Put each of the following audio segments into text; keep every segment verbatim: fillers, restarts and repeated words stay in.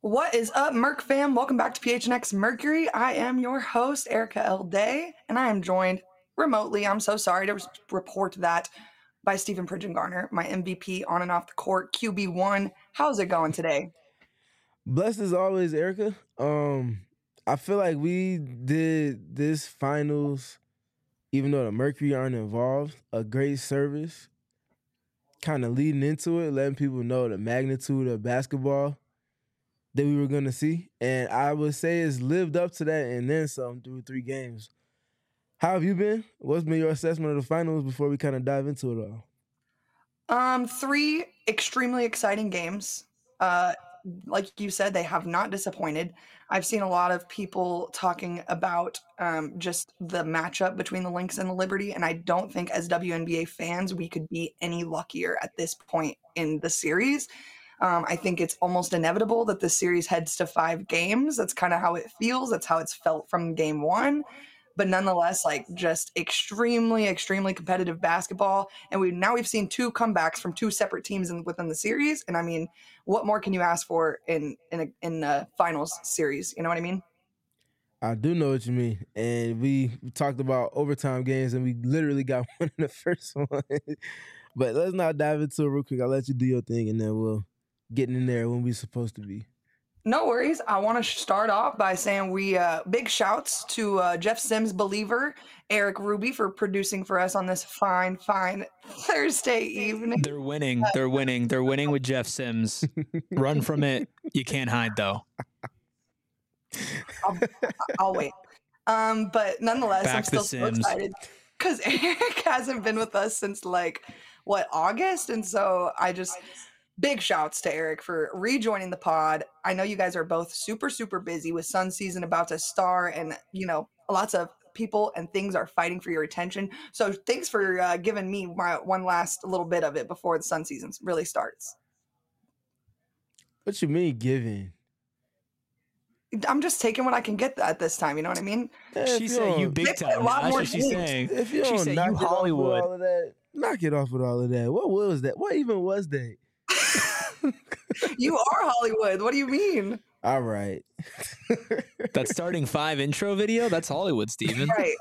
What is up, Merc fam? Welcome back to P H N X Mercury. I am your host, Erica L. Day, and I am joined remotely. I'm so sorry to report that by Stephen Pridgeon-Garner, my M V P on and off the court, Q B one. How's it going today? Blessed as always, Erica. Um, I feel like we did this finals, even though the Mercury aren't involved, a great service, kind of leading into it, letting people know the magnitude of basketball that we were going to see. And I would say it's lived up to that and then some through three games. How have you been? What's been your assessment of the finals before we kind of dive into it all? Um, three extremely exciting games. Uh, like you said, they have not disappointed. I've seen a lot of people talking about um, just the matchup between the Lynx and the Liberty, and I don't think as W N B A fans we could be any luckier at this point in the series. Um, I think it's almost inevitable that the series heads to five games. That's kind of how it feels. That's how it's felt from game one. But nonetheless, like just extremely, extremely competitive basketball. And we now we've seen two comebacks from two separate teams in, within the series. And I mean, what more can you ask for in in a, in a finals series? You know what I mean? I do know what you mean. And we talked about overtime games, and we literally got one in the first one. But let's not dive into it real quick. I'll let you do your thing, and then we'll get in there when we're supposed to be. No worries. I want to start off by saying we uh, big shouts to uh, Jeff Sims Believer, Eric Ruby for producing for us on this fine, fine Thursday evening. They're winning. They're winning. They're winning with Jeff Sims. Run from it. You can't hide, though. I'll, I'll wait. Um, but nonetheless, Back I'm still so excited because Eric hasn't been with us since like, what, August? And so I just... Big shouts to Eric for rejoining the pod. I know you guys are both super, super busy with Sun season about to start, and, you know, lots of people and things are fighting for your attention. So thanks for uh, giving me my one last little bit of it before the Sun season really starts. What you mean giving? I'm just taking what I can get at this time. You know what I mean? Yeah, she said you big time. A lot That's more what she's games. saying. If you she don't said knock you it off with Hollywood. all of that, knock it off with all of that. What was that? What even was that? You are Hollywood. What do you mean? All right. That starting five intro video, that's Hollywood, Steven. Right.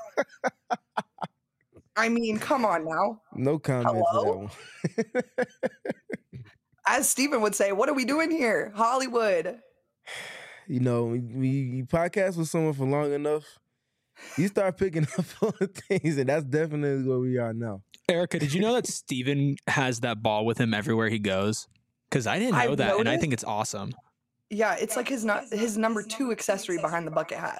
I mean, come on now. No comment Hello? for that one. As Steven would say, what are we doing here? Hollywood. You know, we, we podcast with someone for long enough, you start picking up on things, and that's definitely where we are now. Erica, did you know that Steven has that ball with him everywhere he goes? Because I didn't know I've that, noticed. and I think it's awesome. Yeah, it's like his not his number two accessory behind the bucket hat.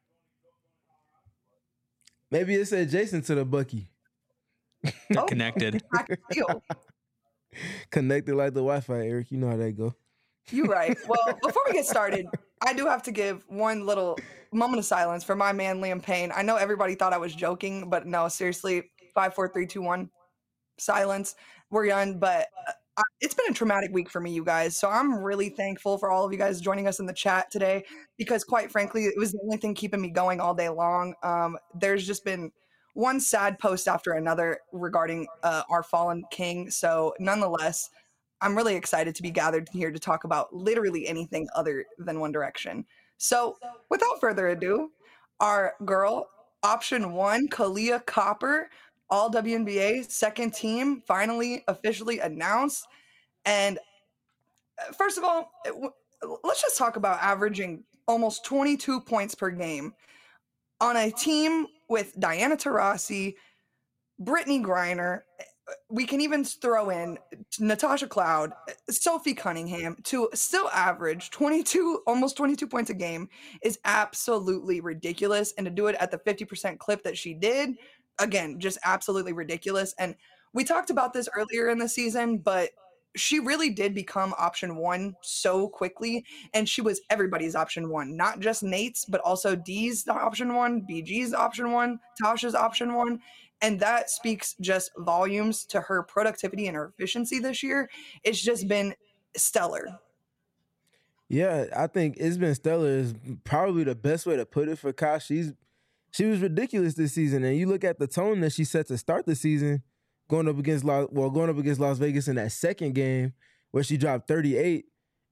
Maybe it's adjacent to the Bucky. They're Oh. connected. I can feel. Connected like the Wi-Fi, Eric. You know how that go. You're right. Well, before we get started, I do have to give one little moment of silence for my man Liam Payne. I know everybody thought I was joking, but no, seriously, five, four, three, two, one, silence. We're done, but uh, it's been a traumatic week for me, you guys. So I'm really thankful for all of you guys joining us in the chat today, because quite frankly, it was the only thing keeping me going all day long. Um, there's just been one sad post after another regarding uh, our fallen king. So nonetheless, I'm really excited to be gathered here to talk about literally anything other than One Direction. So without further ado, our girl, option one, Kalia Copper, all W N B A second team, finally officially announced. And first of all, let's just talk about averaging almost twenty-two points per game on a team with Diana Taurasi, Brittany Griner. We can even throw in Natasha Cloud, Sophie Cunningham, to still average twenty-two, almost twenty-two points a game is absolutely ridiculous. And to do it at the fifty percent clip that she did, again, just absolutely ridiculous. And we talked about this earlier in the season, but she really did become option one so quickly. And she was everybody's option one, not just Nate's, but also D's option one, B G's option one, Tasha's option one. And that speaks just volumes to her productivity and her efficiency this year. It's just been stellar. Yeah, I think it's been stellar is probably the best way to put it for Kai. She's she was ridiculous this season, and you look at the tone that she set to start the season, going up against Las, well, going up against Las Vegas in that second game where she dropped thirty-eight,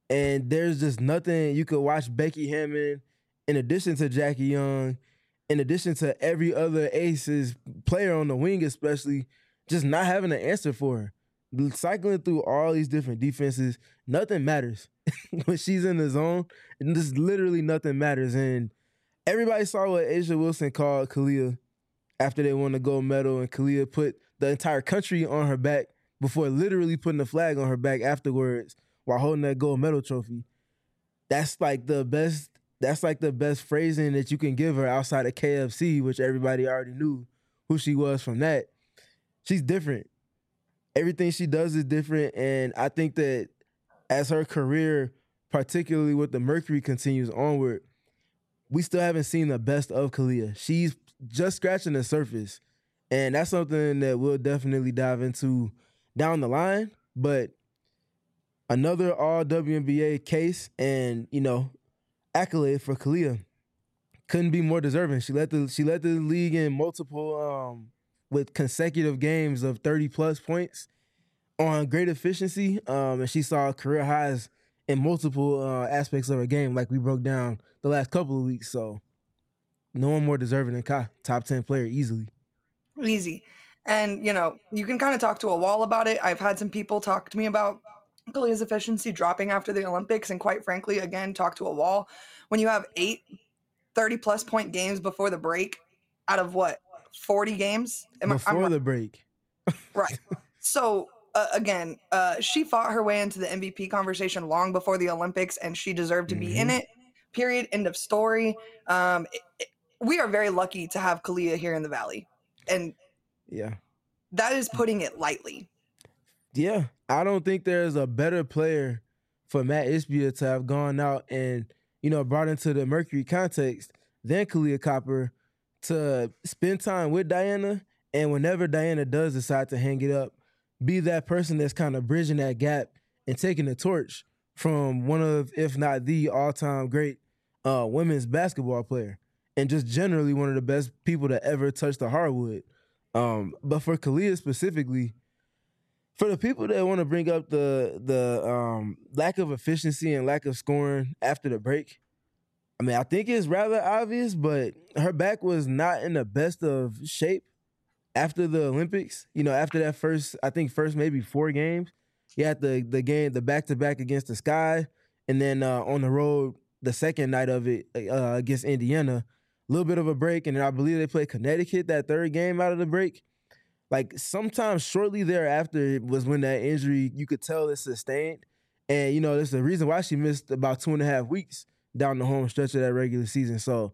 And there's just nothing you could watch Becky Hammond, in addition to Jackie Young, in addition to every other Aces player on the wing, especially, just not having an answer for her. Cycling through all these different defenses, nothing matters. When she's in the zone, and just literally nothing matters. And everybody saw what A'ja Wilson called Kalia after they won the gold medal, and Kalia put the entire country on her back before literally putting the flag on her back afterwards while holding that gold medal trophy. That's like the best, that's like the best phrasing that you can give her outside of K F C, which everybody already knew who she was from that. She's different. Everything she does is different, and I think that as her career, particularly with the Mercury, continues onward, we still haven't seen the best of Kalia. She's just scratching the surface, and that's something that we'll definitely dive into down the line. But another all W N B A case and, you know, accolade for Kalia. Couldn't be more deserving. She led the she led the league in multiple um, with consecutive games of thirty plus points on great efficiency, um, and she saw career highs in multiple uh, aspects of her game, like we broke down the last couple of weeks. So no one more deserving than Kai. Top ten player easily. Easy. And, you know, you can kind of talk to a wall about it. I've had some people talk to me about Kalia's efficiency dropping after the Olympics, and quite frankly, again, talk to a wall. When you have eight thirty-plus point games before the break out of what, forty games? Am before I, the break. Right. So, uh, again, uh, she fought her way into the M V P conversation long before the Olympics, and she deserved to be mm-hmm. in it, period, end of story. Um, it, it, we are very lucky to have Kalia here in the Valley, and yeah, that is putting it lightly. Yeah, I don't think there's a better player for Matt Ishbia to have gone out and, you know, brought into the Mercury context than Kahleah Copper to spend time with Diana, and whenever Diana does decide to hang it up, be that person that's kind of bridging that gap and taking the torch from one of, if not the all-time great uh, women's basketball player, and just generally one of the best people to ever touch the hardwood. Um, but for Kalia specifically, for the people that want to bring up the the um, lack of efficiency and lack of scoring after the break, I mean, I think it's rather obvious, but her back was not in the best of shape after the Olympics. You know, after that first, I think first maybe four games, you had the the game, the back-to-back against the Sky, and then uh, on the road, the second night of it uh, against Indiana, a little bit of a break, and then I believe they played Connecticut that third game out of the break. Like, sometimes shortly thereafter was when that injury, you could tell it's sustained. And, you know, there's the reason why she missed about two and a half weeks down the home stretch of that regular season. So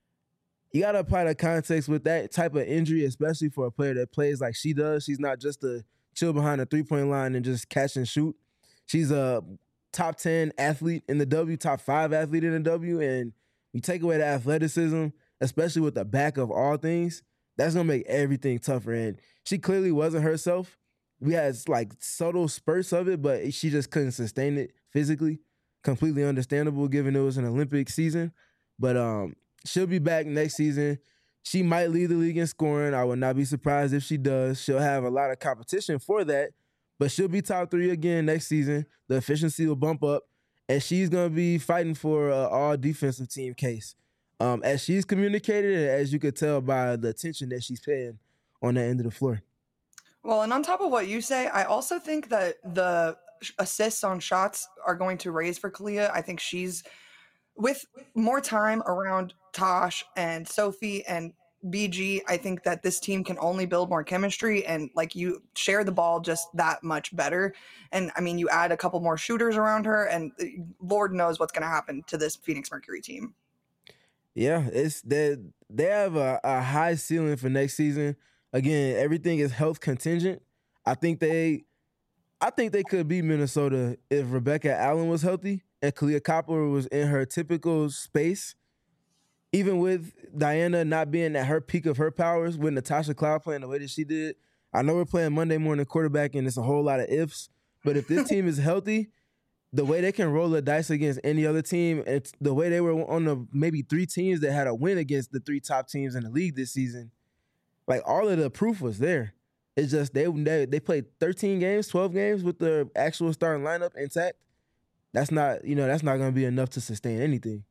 you got to apply the context with that type of injury, especially for a player that plays like she does. She's not just a chill behind the three-point line and just catch and shoot. She's a top ten athlete in the W, top five athlete in the W. And you take away the athleticism, especially with the back of all things, that's going to make everything tougher. And she clearly wasn't herself. We had like subtle spurts of it, but she just couldn't sustain it physically. Completely understandable given it was an Olympic season. But um, she'll be back next season. She might lead the league in scoring. I would not be surprised if she does. She'll have a lot of competition for that, but she'll be top three again next season. The efficiency will bump up, and she's going to be fighting for an all-defensive team case. Um, as she's communicated, and as you could tell by the attention that she's paying on that end of the floor. Well, and on top of what you say, I also think that the assists on shots are going to raise for Kalia. I think she's, with more time around Tosh and Sophie and B G, I think that this team can only build more chemistry and, like, you share the ball just that much better. And, I mean, you add a couple more shooters around her, and Lord knows what's going to happen to this Phoenix Mercury team. Yeah, it's they they have a, a high ceiling for next season. Again, everything is health contingent. I think they, I think they could beat Minnesota if Rebecca Allen was healthy and Kahleah Copper was in her typical space. Even with Diana not being at her peak of her powers, with Natasha Cloud playing the way that she did, I know we're playing Monday morning quarterback and it's a whole lot of ifs. But if this team is healthy, the way they can roll the dice against any other team, it's the way they were on the maybe three teams that had a win against the three top teams in the league this season. Like, all of the proof was there. It's just they they, they played thirteen games, twelve games with the actual starting lineup intact. that's not, you know, that's not going to be enough to sustain anything.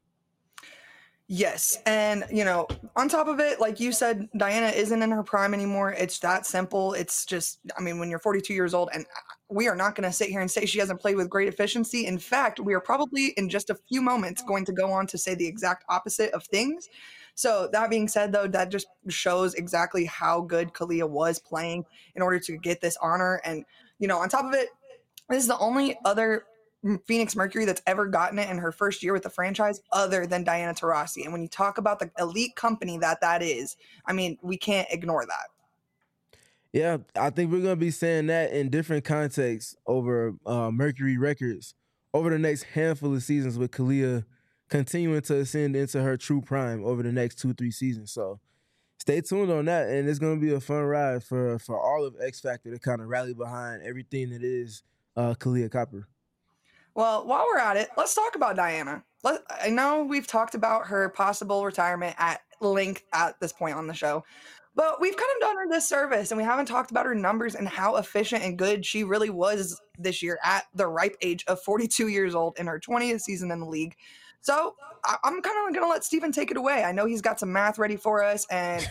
Yes. And, you know, on top of it, like you said, Diana isn't in her prime anymore. It's that simple. It's just, I mean, when you're forty-two years old, and we are not going to sit here and say she hasn't played with great efficiency. In fact, we are probably in just a few moments going to go on to say the exact opposite of things. So that being said, though, that just shows exactly how good Kahleah was playing in order to get this honor. And, you know, on top of it, this is the only other Phoenix Mercury that's ever gotten it in her first year with the franchise other than Diana Taurasi. And when you talk about the elite company that that is, I mean, we can't ignore that. Yeah, I think we're going to be saying that in different contexts over uh, Mercury records over the next handful of seasons, with Kahleah continuing to ascend into her true prime over the next two, three seasons. So stay tuned on that, and it's going to be a fun ride for, for all of X Factor to kind of rally behind everything that is uh, Kahleah Copper. Well, while we're at it, let's talk about Diana. Let, I know we've talked about her possible retirement at length at this point on the show, but we've kind of done her this service and we haven't talked about her numbers and how efficient and good she really was this year at the ripe age of forty-two years old in her twentieth season in the league. So I, I'm kind of going to let Steven take it away. I know he's got some math ready for us, and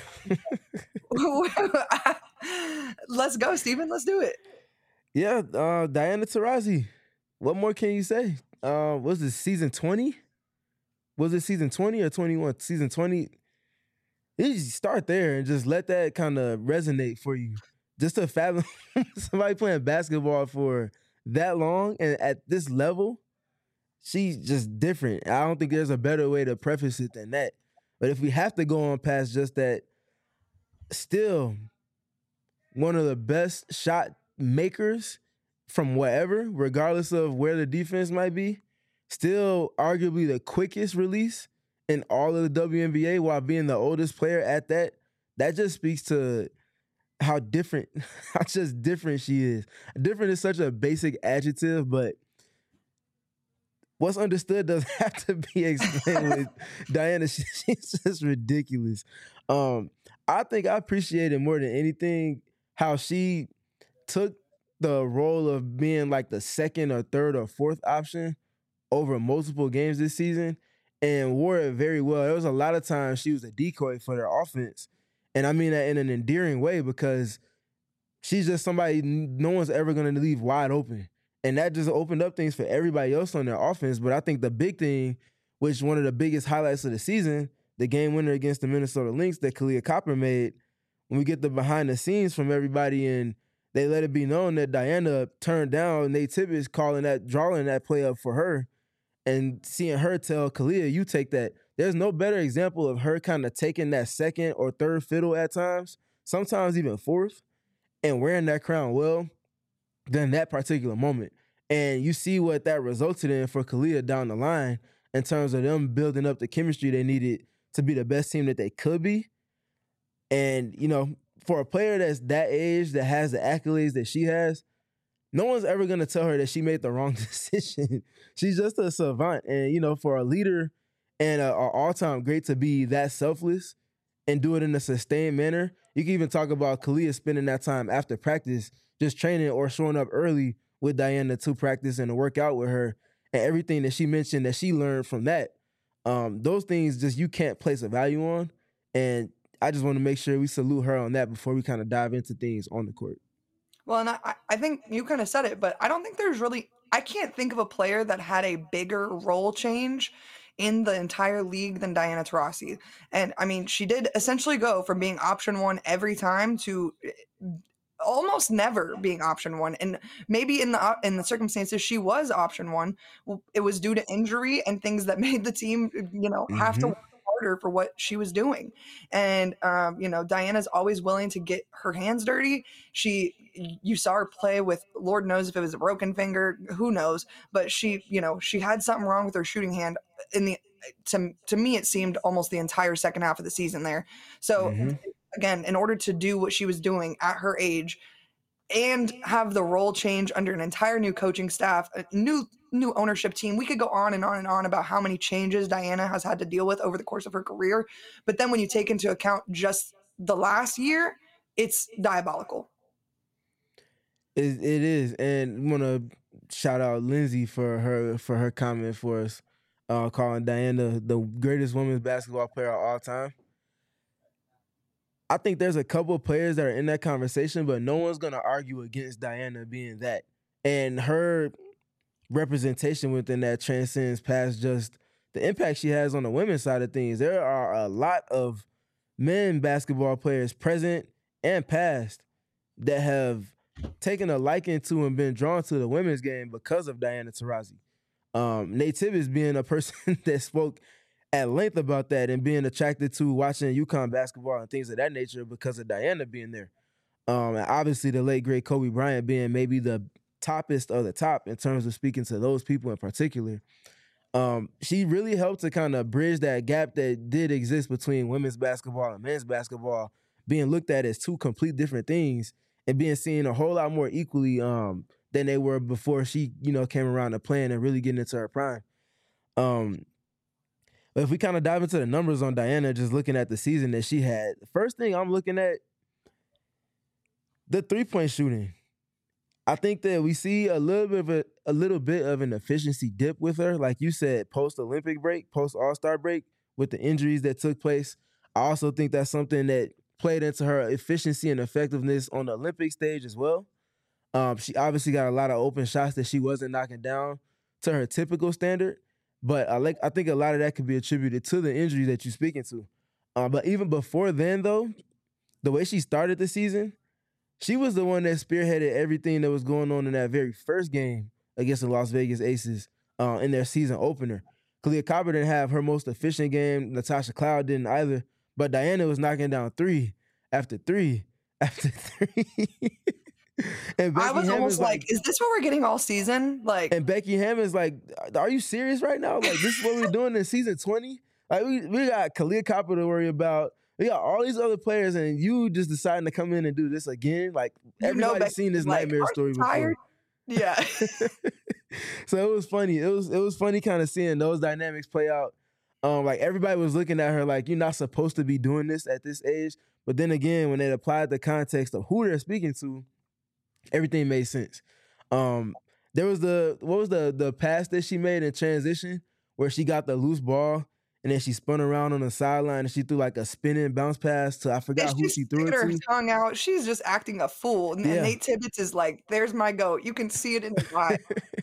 let's go, Steven. Let's do it. Yeah, uh, Diana Taurasi. What more can you say? Uh, was it season twenty? Was it season twenty or twenty-one? Season twenty. You just start there and just let that kind of resonate for you. Just to fathom somebody playing basketball for that long and at this level, she's just different. I don't think there's a better way to preface it than that. But if we have to go on past just that, still one of the best shot makers from wherever, regardless of where the defense might be, still arguably the quickest release in all of the W N B A while being the oldest player at that. That just speaks to how different, how just different she is. Different is such a basic adjective, but what's understood doesn't have to be explained with Diana. She, she's just ridiculous. Um, I think I appreciated more than anything how she took the role of being like the second or third or fourth option over multiple games this season and wore it very well. There was a lot of times she was a decoy for their offense. And I mean that in an endearing way because she's just somebody no one's ever going to leave wide open. And that just opened up things for everybody else on their offense. But I think the big thing, which one of the biggest highlights of the season, the game winner against the Minnesota Lynx that Kahleah Copper made, when we get the behind the scenes from everybody and they let it be known that Diana turned down Nate Tibbetts calling that, drawing that play up for her and seeing her tell Kahleah, you take that. There's no better example of her kind of taking that second or third fiddle at times, sometimes even fourth, and wearing that crown well than that particular moment. And you see what that resulted in for Kahleah down the line in terms of them building up the chemistry they needed to be the best team that they could be. And, you know, for a player that's that age, that has the accolades that she has, no one's ever going to tell her that she made the wrong decision. She's just a savant. And, you know, for a leader and an all-time great to be that selfless and do it in a sustained manner, you can even talk about Kahleah spending that time after practice just training or showing up early with Diana to practice and to work out with her, and everything that she mentioned that she learned from that. Um, those things just you can't place a value on. And I just want to make sure we salute her on that before we kind of dive into things on the court. Well, and I, I think you kind of said it, but I don't think there's really, I can't think of a player that had a bigger role change in the entire league than Diana Taurasi. And I mean, she did essentially go from being option one every time to almost never being option one. And maybe in the in the circumstances she was option one, it was due to injury and things that made the team, you know, have Mm-hmm. to work harder for what she was doing. And um, you know, Diana's always willing to get her hands dirty. She, you saw her play with, Lord knows if it was a broken finger, who knows, but she, you know, she had something wrong with her shooting hand in the, to, to me, it seemed almost the entire second half of the season there. So Mm-hmm. again, in order to do what she was doing at her age and have the role change under an entire new coaching staff, a new new ownership team, we could go on and on and on about how many changes Diana has had to deal with over the course of her career. But then when you take into account just the last year, it's diabolical. It, it is. And want to shout out Lindsay for her for her comment for us, uh, calling Diana the greatest women's basketball player of all time. I think there's a couple of players that are in that conversation, but no one's gonna argue against Diana being that. And her representation within that transcends past just the impact she has on the women's side of things. There are a lot of men basketball players, present and past, that have taken a liking to and been drawn to the women's game because of Diana Taurasi. Um, Nate Tibbetts being a person that spoke at length about that and being attracted to watching UConn basketball and things of that nature because of Diana being there. Um, and obviously the late, great Kobe Bryant being maybe the toppest of the top in terms of speaking to those people in particular. Um, she really helped to kind of bridge that gap that did exist between women's basketball and men's basketball being looked at as two complete different things and being seen a whole lot more equally um, than they were before she, you know, came around to playing and really getting into her prime. Um, but if we kind of dive into the numbers on Diana, just looking at the season that she had, the first thing I'm looking at, the three-point shooting. I think that we see a little bit of a, a little bit of an efficiency dip with her. Like you said, post-Olympic break, post-All-Star break, with the injuries that took place. I also think that's something that played into her efficiency and effectiveness on the Olympic stage as well. Um, she obviously got a lot of open shots that she wasn't knocking down to her typical standard. But I like I think a lot of that could be attributed to the injury that you're speaking to. Um, but even before then, though, the way she started the season, she was the one that spearheaded everything that was going on in that very first game against the Las Vegas Aces uh, in their season opener. Kalia Copper didn't have her most efficient game. Natasha Cloud didn't either. But Diana was knocking down three after three after three. And Becky I was Hammond's almost like, is this what we're getting all season? Like, and Becky Hammond's like, are you serious right now? Like, this is what we're doing in season twenty? Like, we, we got Kalia Copper to worry about. We got all these other players, and you just deciding to come in and do this again. Like, everybody's seen this like, nightmare story tired? before. Yeah. So it was funny. It was it was funny kind of seeing those dynamics play out. Um, like everybody was looking at her like, you're not supposed to be doing this at this age. But then again, when they applied the context of who they're speaking to, everything made sense. Um, there was the what was the the pass that she made in transition where she got the loose ball. And then she spun around on the sideline and she threw like a spinning bounce pass to, I forgot and who she threw it her to. Tongue out. She's just acting a fool. And, Yeah. and Nate Tibbetts is like, there's my goat. You can see it in his eye.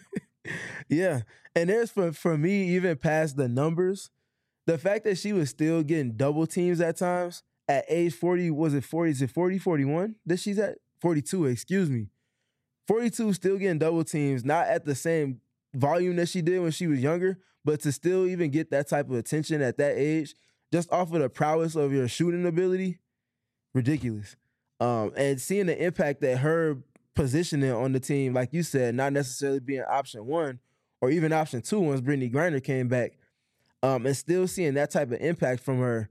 Yeah. And there's for, for me, even past the numbers, the fact that she was still getting double teams at times at age forty, was it forty? Is it forty, forty-one that she's at? forty-two, excuse me. forty-two still getting double teams, not at the same volume that she did when she was younger, but to still even get that type of attention at that age, just off of the prowess of your shooting ability, ridiculous. Um, and seeing the impact that her positioning on the team, like you said, not necessarily being option one or even option two once Brittany Griner came back, um, and still seeing that type of impact from her.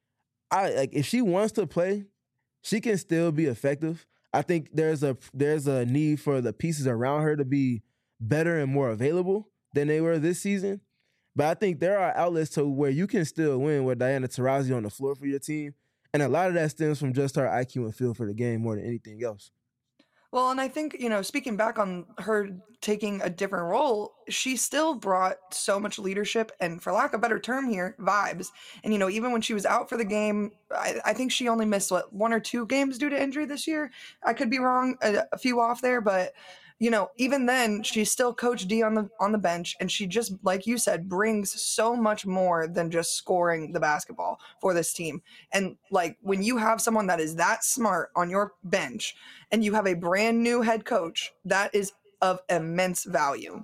I like if she wants to play, she can still be effective. I think there's a there's a need for the pieces around her to be better and more available than they were this season. But I think there are outlets to where you can still win with Diana Taurasi on the floor for your team. And a lot of that stems from just her I Q and feel for the game more than anything else. Well, and I think, you know, speaking back on her taking a different role, she still brought so much leadership and, for lack of a better term here, vibes. And, you know, even when she was out for the game, I, I think she only missed, what, one or two games due to injury this year? I could be wrong, a, a few off there, but you know, even then, she's still Coach D on the on the bench, and she just, like you said, brings so much more than just scoring the basketball for this team. And like when you have someone that is that smart on your bench, and you have a brand new head coach, that is of immense value.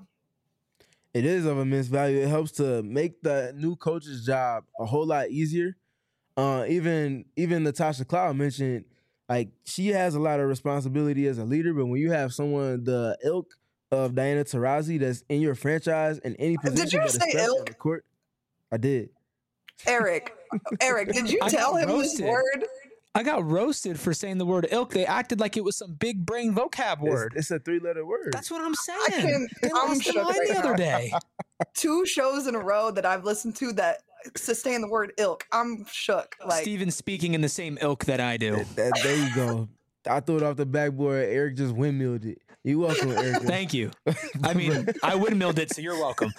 It is of immense value. It helps to make the new coach's job a whole lot easier. Uh, even even Natasha Cloud mentioned, like, she has a lot of responsibility as a leader, but when you have someone the ilk of Diana Taurasi that's in your franchise in any position, did you but say especially ilk? on the court, I did. Eric, Eric, did you I tell got him roasted. this word? I got roasted for saying the word ilk. They acted like it was some big brain vocab word. It's, it's a three-letter word. That's what I'm saying. I can, They I'm lost their shook mind right the other now. day. Two shows in a row that I've listened to that sustain the word ilk. I'm shook. Like, Steven's speaking in the same ilk that I do. That- that- there you go. I threw it off the backboard. Eric just windmilled it. You're welcome, Erica. Thank you. I mean, I windmilled it, so you're welcome.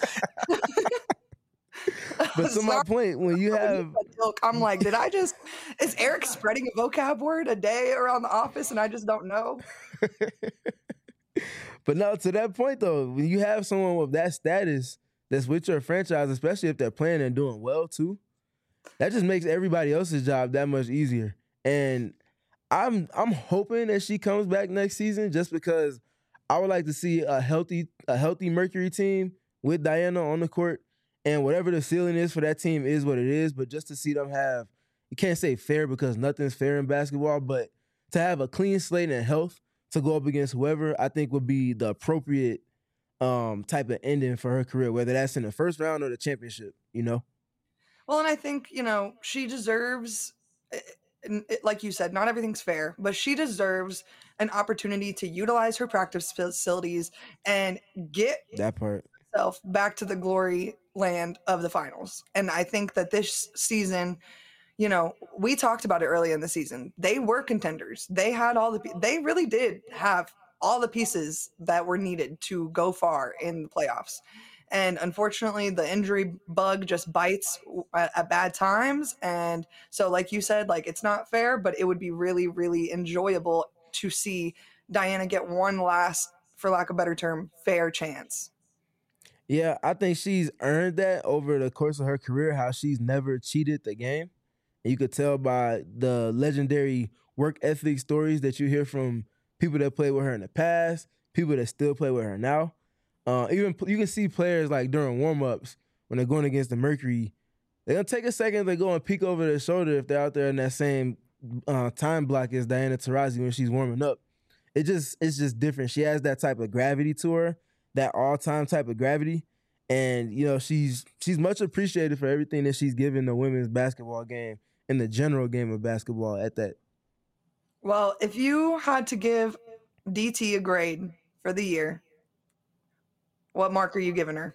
But to my point, when you have, joke, I'm like, did I just? Is Eric spreading a vocab word a day around the office, and I just don't know? But no, to that point though, when you have someone with that status that's with your franchise, especially if they're playing and doing well too, that just makes everybody else's job that much easier. And I'm I'm hoping that she comes back next season, just because I would like to see a healthy a healthy Mercury team with Diana on the court, and whatever the ceiling is for that team is what it is. But just to see them have, you can't say fair because nothing's fair in basketball, but to have a clean slate and health to go up against whoever, I think would be the appropriate um, type of ending for her career, whether that's in the first round or the championship, you know? Well, and I think, you know, she deserves, and it- like you said, not everything's fair, but she deserves an opportunity to utilize her practice facilities and get That part. herself back to the glory land of the finals. And I think that this season, you know, we talked about it early in the season. They were contenders. They had all the, they really did have all the pieces that were needed to go far in the playoffs. And unfortunately, the injury bug just bites at, at bad times. And so, like you said, like, it's not fair, but it would be really, really enjoyable to see Diana get one last, for lack of a better term, fair chance. Yeah, I think she's earned that over the course of her career, how she's never cheated the game. And you could tell by the legendary work ethic stories that you hear from people that played with her in the past, people that still play with her now. Uh, even you can see players like during warm-ups when they're going against the Mercury, they're going to take a second to go and peek over their shoulder if they're out there in that same uh, time block as Diana Taurasi when she's warming up. It just It's just different. She has that type of gravity to her, that all-time type of gravity. And, you know, she's she's much appreciated for everything that she's given the women's basketball game and the general game of basketball at that. Well, if you had to give D T a grade for the year, what mark are you giving her?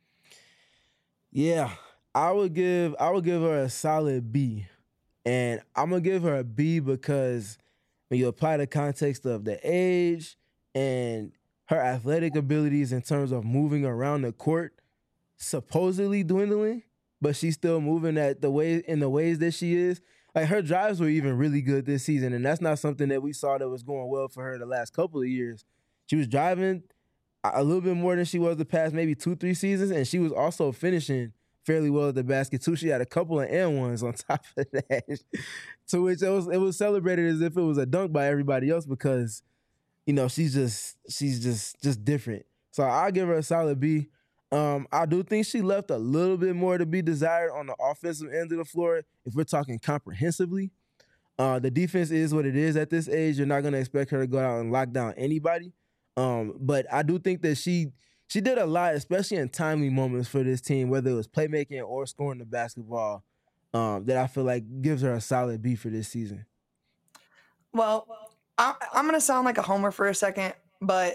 Yeah, I would give I would give her a solid B. And I'm gonna give her a B because when you apply the context of the age and her athletic abilities in terms of moving around the court, supposedly dwindling, but she's still moving at the way in the ways that she is. Like, her drives were even really good this season, and that's not something that we saw that was going well for her the last couple of years. She was driving a little bit more than she was the past maybe two, three seasons, and she was also finishing fairly well at the basket too. She had a couple of and ones on top of that, to which it was it was celebrated as if it was a dunk by everybody else because, you know, she's just she's just just different. So I'll give her a solid B. Um, I do think she left a little bit more to be desired on the offensive end of the floor if we're talking comprehensively. Uh, the defense is what it is at this age. You're not going to expect her to go out and lock down anybody. Um, but I do think that she she did a lot, especially in timely moments for this team, whether it was playmaking or scoring the basketball, um, that I feel like gives her a solid B for this season. Well, I, I'm going to sound like a homer for a second, but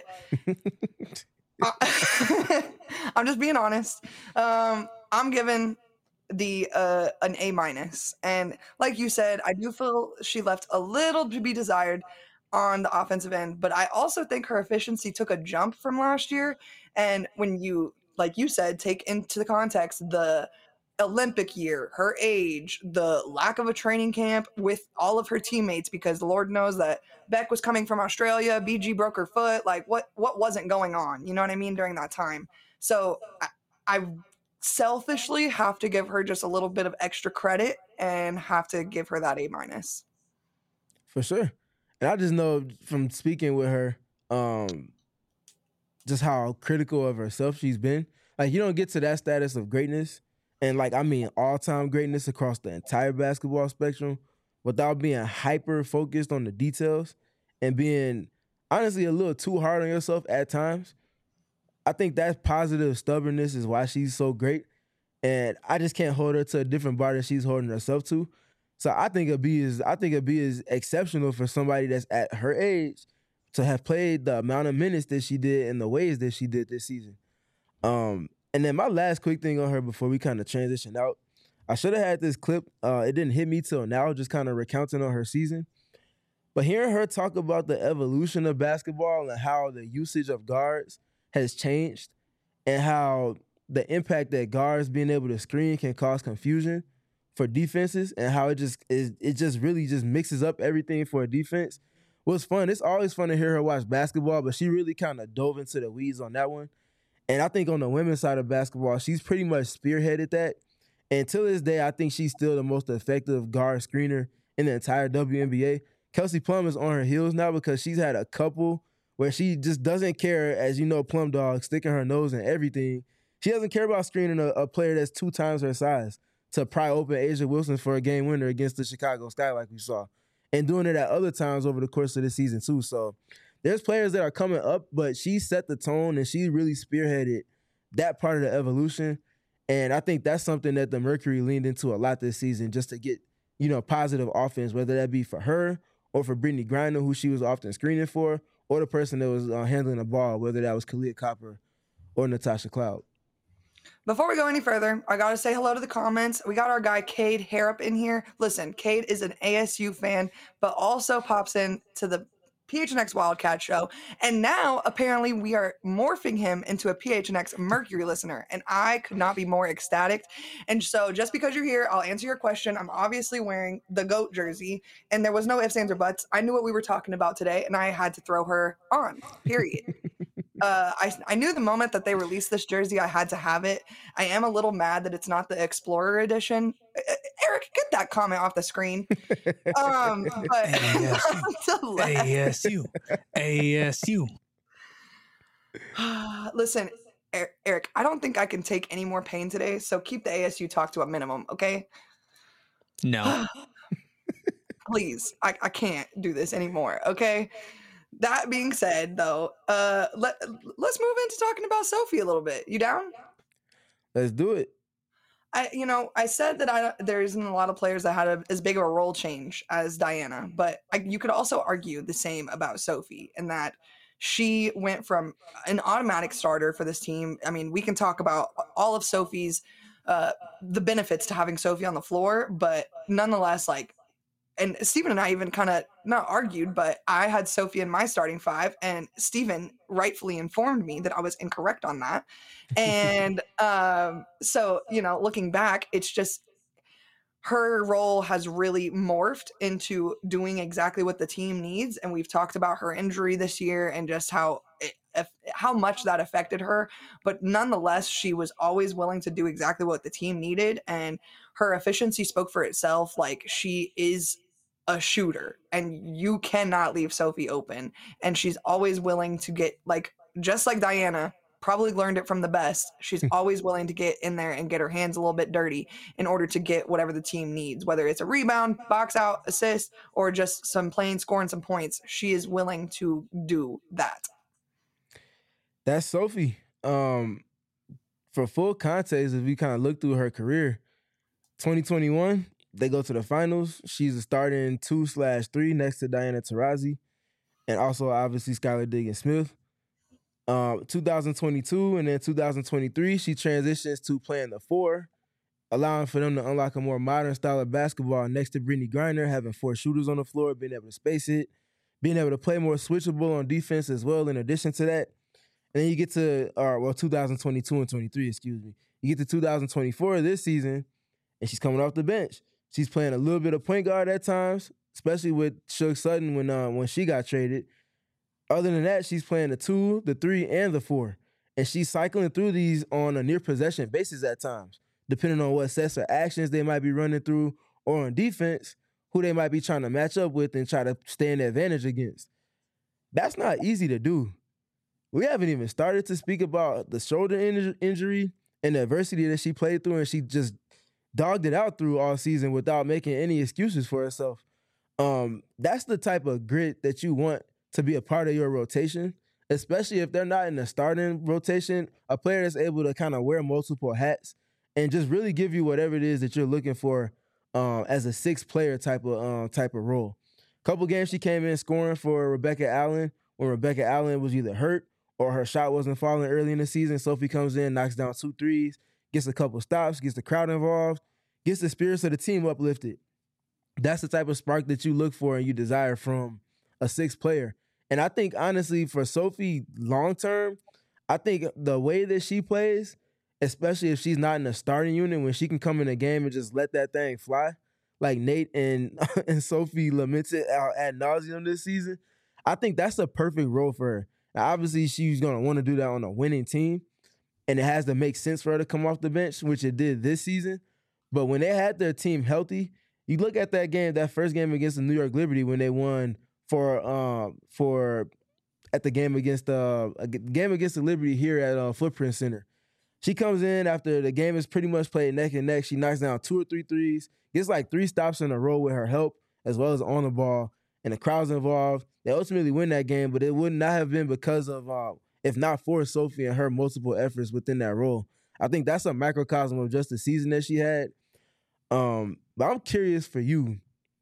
I, I'm just being honest. Um, I'm giving the uh, an A minus, and like you said, I do feel she left a little to be desired on the offensive end, but I also think her efficiency took a jump from last year. And when you, like you said, take into the context the Olympic year, her age, the lack of a training camp with all of her teammates, because the Lord knows that Beck was coming from Australia, B G broke her foot, like what what wasn't going on, you know what I mean, during that time. So I, I selfishly have to give her just a little bit of extra credit and have to give her that A minus. For sure. And I just know from speaking with her, um, just how critical of herself she's been. Like, you don't get to that status of greatness, and like, I mean all-time greatness across the entire basketball spectrum, without being hyper focused on the details and being honestly a little too hard on yourself at times. I think that positive stubbornness is why she's so great. And I just can't hold her to a different bar that she's holding herself to. So I think a B is I think a B is exceptional for somebody that's at her age to have played the amount of minutes that she did in the ways that she did this season. Um, and then my last quick thing on her before we kind of transition out, I should have had this clip. Uh, it didn't hit me till now, just kind of recounting on her season. But hearing her talk about the evolution of basketball and how the usage of guards has changed and how the impact that guards being able to screen can cause confusion for defenses and how it just is, it just really just mixes up everything for a defense was fun. It's always fun to hear her watch basketball, but she really kind of dove into the weeds on that one. And I think on the women's side of basketball, she's pretty much spearheaded that. And to this day, I think she's still the most effective guard screener in the entire W N B A. Kelsey Plum is on her heels now because she's had a couple where she just doesn't care, as you know, Plum Dog, sticking her nose in everything. She doesn't care about screening a, a player that's two times her size to pry open Asia Wilson for a game winner against the Chicago Sky like we saw. And doing it at other times over the course of the season too. So there's players that are coming up, but she set the tone and she really spearheaded that part of the evolution. And I think that's something that the Mercury leaned into a lot this season just to get, you know, positive offense, whether that be for her or for Brittany Griner, who she was often screening for, or the person that was uh, handling the ball, whether that was Kalia Copper or Natasha Cloud. Before we go any further, I got to say hello to the comments. We got our guy Cade Harrop in here. Listen, Cade is an A S U fan, but also pops in to the P H N X Wildcat show. And now, apparently, we are morphing him into a P H N X Mercury listener. And I could not be more ecstatic. And so just because you're here, I'll answer your question. I'm obviously wearing the GOAT jersey. And there was no ifs, ands, or buts. I knew what we were talking about today, and I had to throw her on, period. Uh, I, I knew the moment that they released this jersey, I had to have it. I am a little mad that it's not the Explorer edition. Eric, get that comment off the screen. Um, but A S U. A S U. Listen, Eric, I don't think I can take any more pain today, so keep the A S U talk to a minimum, okay? No. Please, I, I can't do this anymore, okay? That being said, though, uh, let, let's move into talking about Sophie a little bit. You down? Let's do it. I, you know, I said that I there isn't a lot of players that had a, as big of a role change as Diana, but I, you could also argue the same about Sophie in that she went from an automatic starter for this team. I mean, we can talk about all of Sophie's, uh, the benefits to having Sophie on the floor, but nonetheless, like, and Steven and I even kind of not argued, but I had Sophie in my starting five, and Steven rightfully informed me that I was incorrect on that. And um, so, you know, looking back, it's just her role has really morphed into doing exactly what the team needs. And we've talked about her injury this year and just how it, how much that affected her. But nonetheless, she was always willing to do exactly what the team needed. And her efficiency spoke for itself. Like, she is a shooter and you cannot leave Sophie open. And she's always willing to get, like, just like Diana, probably learned it from the best. She's always willing to get in there and get her hands a little bit dirty in order to get whatever the team needs, whether it's a rebound, box out, assist, or just some plain scoring some points. She is willing to do that. That's Sophie. Um, for full context, if we kind of look through her career, twenty twenty-one, they go to the finals. She's a starting two slash three next to Diana Taurasi, and also obviously Skylar Diggins-Smith. Um, two thousand twenty-two and then two thousand twenty-three, she transitions to playing the four, allowing for them to unlock a more modern style of basketball next to Brittany Griner, having four shooters on the floor, being able to space it, being able to play more switchable on defense as well in addition to that. And then you get to, uh, well, two thousand twenty-two and twenty-three, excuse me. You get to two thousand twenty-four this season, and she's coming off the bench. She's playing a little bit of point guard at times, especially with Suge Sutton when uh, when she got traded. Other than that, she's playing the two, the three, and the four. And she's cycling through these on a near possession basis at times, depending on what sets or actions they might be running through, or on defense, who they might be trying to match up with and try to stay in advantage against. That's not easy to do. We haven't even started to speak about the shoulder in- injury and the adversity that she played through, and she just dogged it out through all season without making any excuses for herself. Um, that's the type of grit that you want to be a part of your rotation, especially if they're not in the starting rotation, a player that's able to kind of wear multiple hats and just really give you whatever it is that you're looking for um, as a six-player type of um, type of role. Couple games she came in scoring for Rebecca Allen when Rebecca Allen was either hurt or her shot wasn't falling early in the season. Sophie comes in, knocks down two threes, gets a couple stops, gets the crowd involved, gets the spirits of the team uplifted. That's the type of spark that you look for and you desire from a sixth player. And I think, honestly, for Sophie long term, I think the way that she plays, especially if she's not in the starting unit, when she can come in a game and just let that thing fly, like Nate and and Sophie lamented out ad nauseum this season, I think that's the perfect role for her. Now, obviously, she's going to want to do that on a winning team, and it has to make sense for her to come off the bench, which it did this season. But when they had their team healthy, you look at that game, that first game against the New York Liberty when they won for um for at the game against the uh, game against the Liberty here at uh, Footprint Center. She comes in after the game is pretty much played neck and neck. She knocks down two or three threes, gets like three stops in a row with her help as well as on the ball, and the crowd's involved. They ultimately win that game, but it would not have been because of, uh, if not for Sophie and her multiple efforts within that role. I think that's a microcosm of just the season that she had. Um, but I'm curious for you,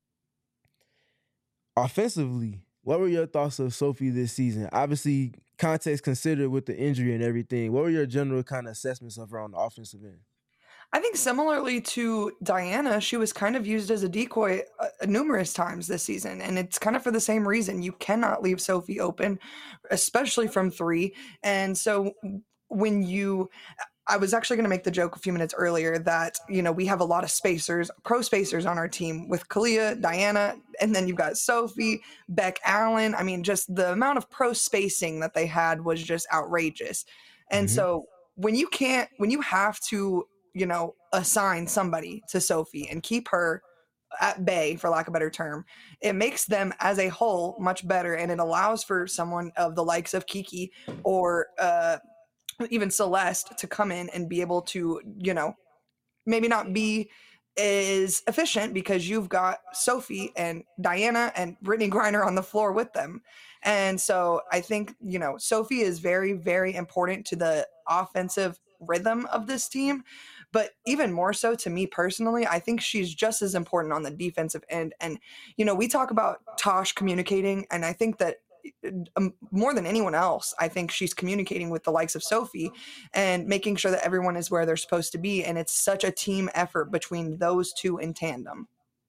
offensively, what were your thoughts of Sophie this season? Obviously, context considered with the injury and everything. What were your general kind of assessments of her on the offensive end? I think similarly to Diana, she was kind of used as a decoy uh, numerous times this season. And it's kind of for the same reason. You cannot leave Sophie open, especially from three. And so when you... I was actually going to make the joke a few minutes earlier that, you know, we have a lot of spacers, pro spacers on our team with Kalia, Diana, and then you've got Sophie, Beck Allen. I mean, just the amount of pro spacing that they had was just outrageous. And mm-hmm. so when you can't, when you have to, you know, assign somebody to Sophie and keep her at bay, for lack of a better term, it makes them as a whole much better. And it allows for someone of the likes of Kiki or, uh, even Celeste to come in and be able to, you know, maybe not be as efficient because you've got Sophie and Diana and Brittany Griner on the floor with them. And so I think, you know, Sophie is very, very important to the offensive rhythm of this team. But even more so to me personally, I think she's just as important on the defensive end. And, you know, we talk about Tosh communicating, and I think that Um, more than anyone else, I think she's communicating with the likes of Sophie and making sure that everyone is where they're supposed to be. And it's such a team effort between those two in tandem.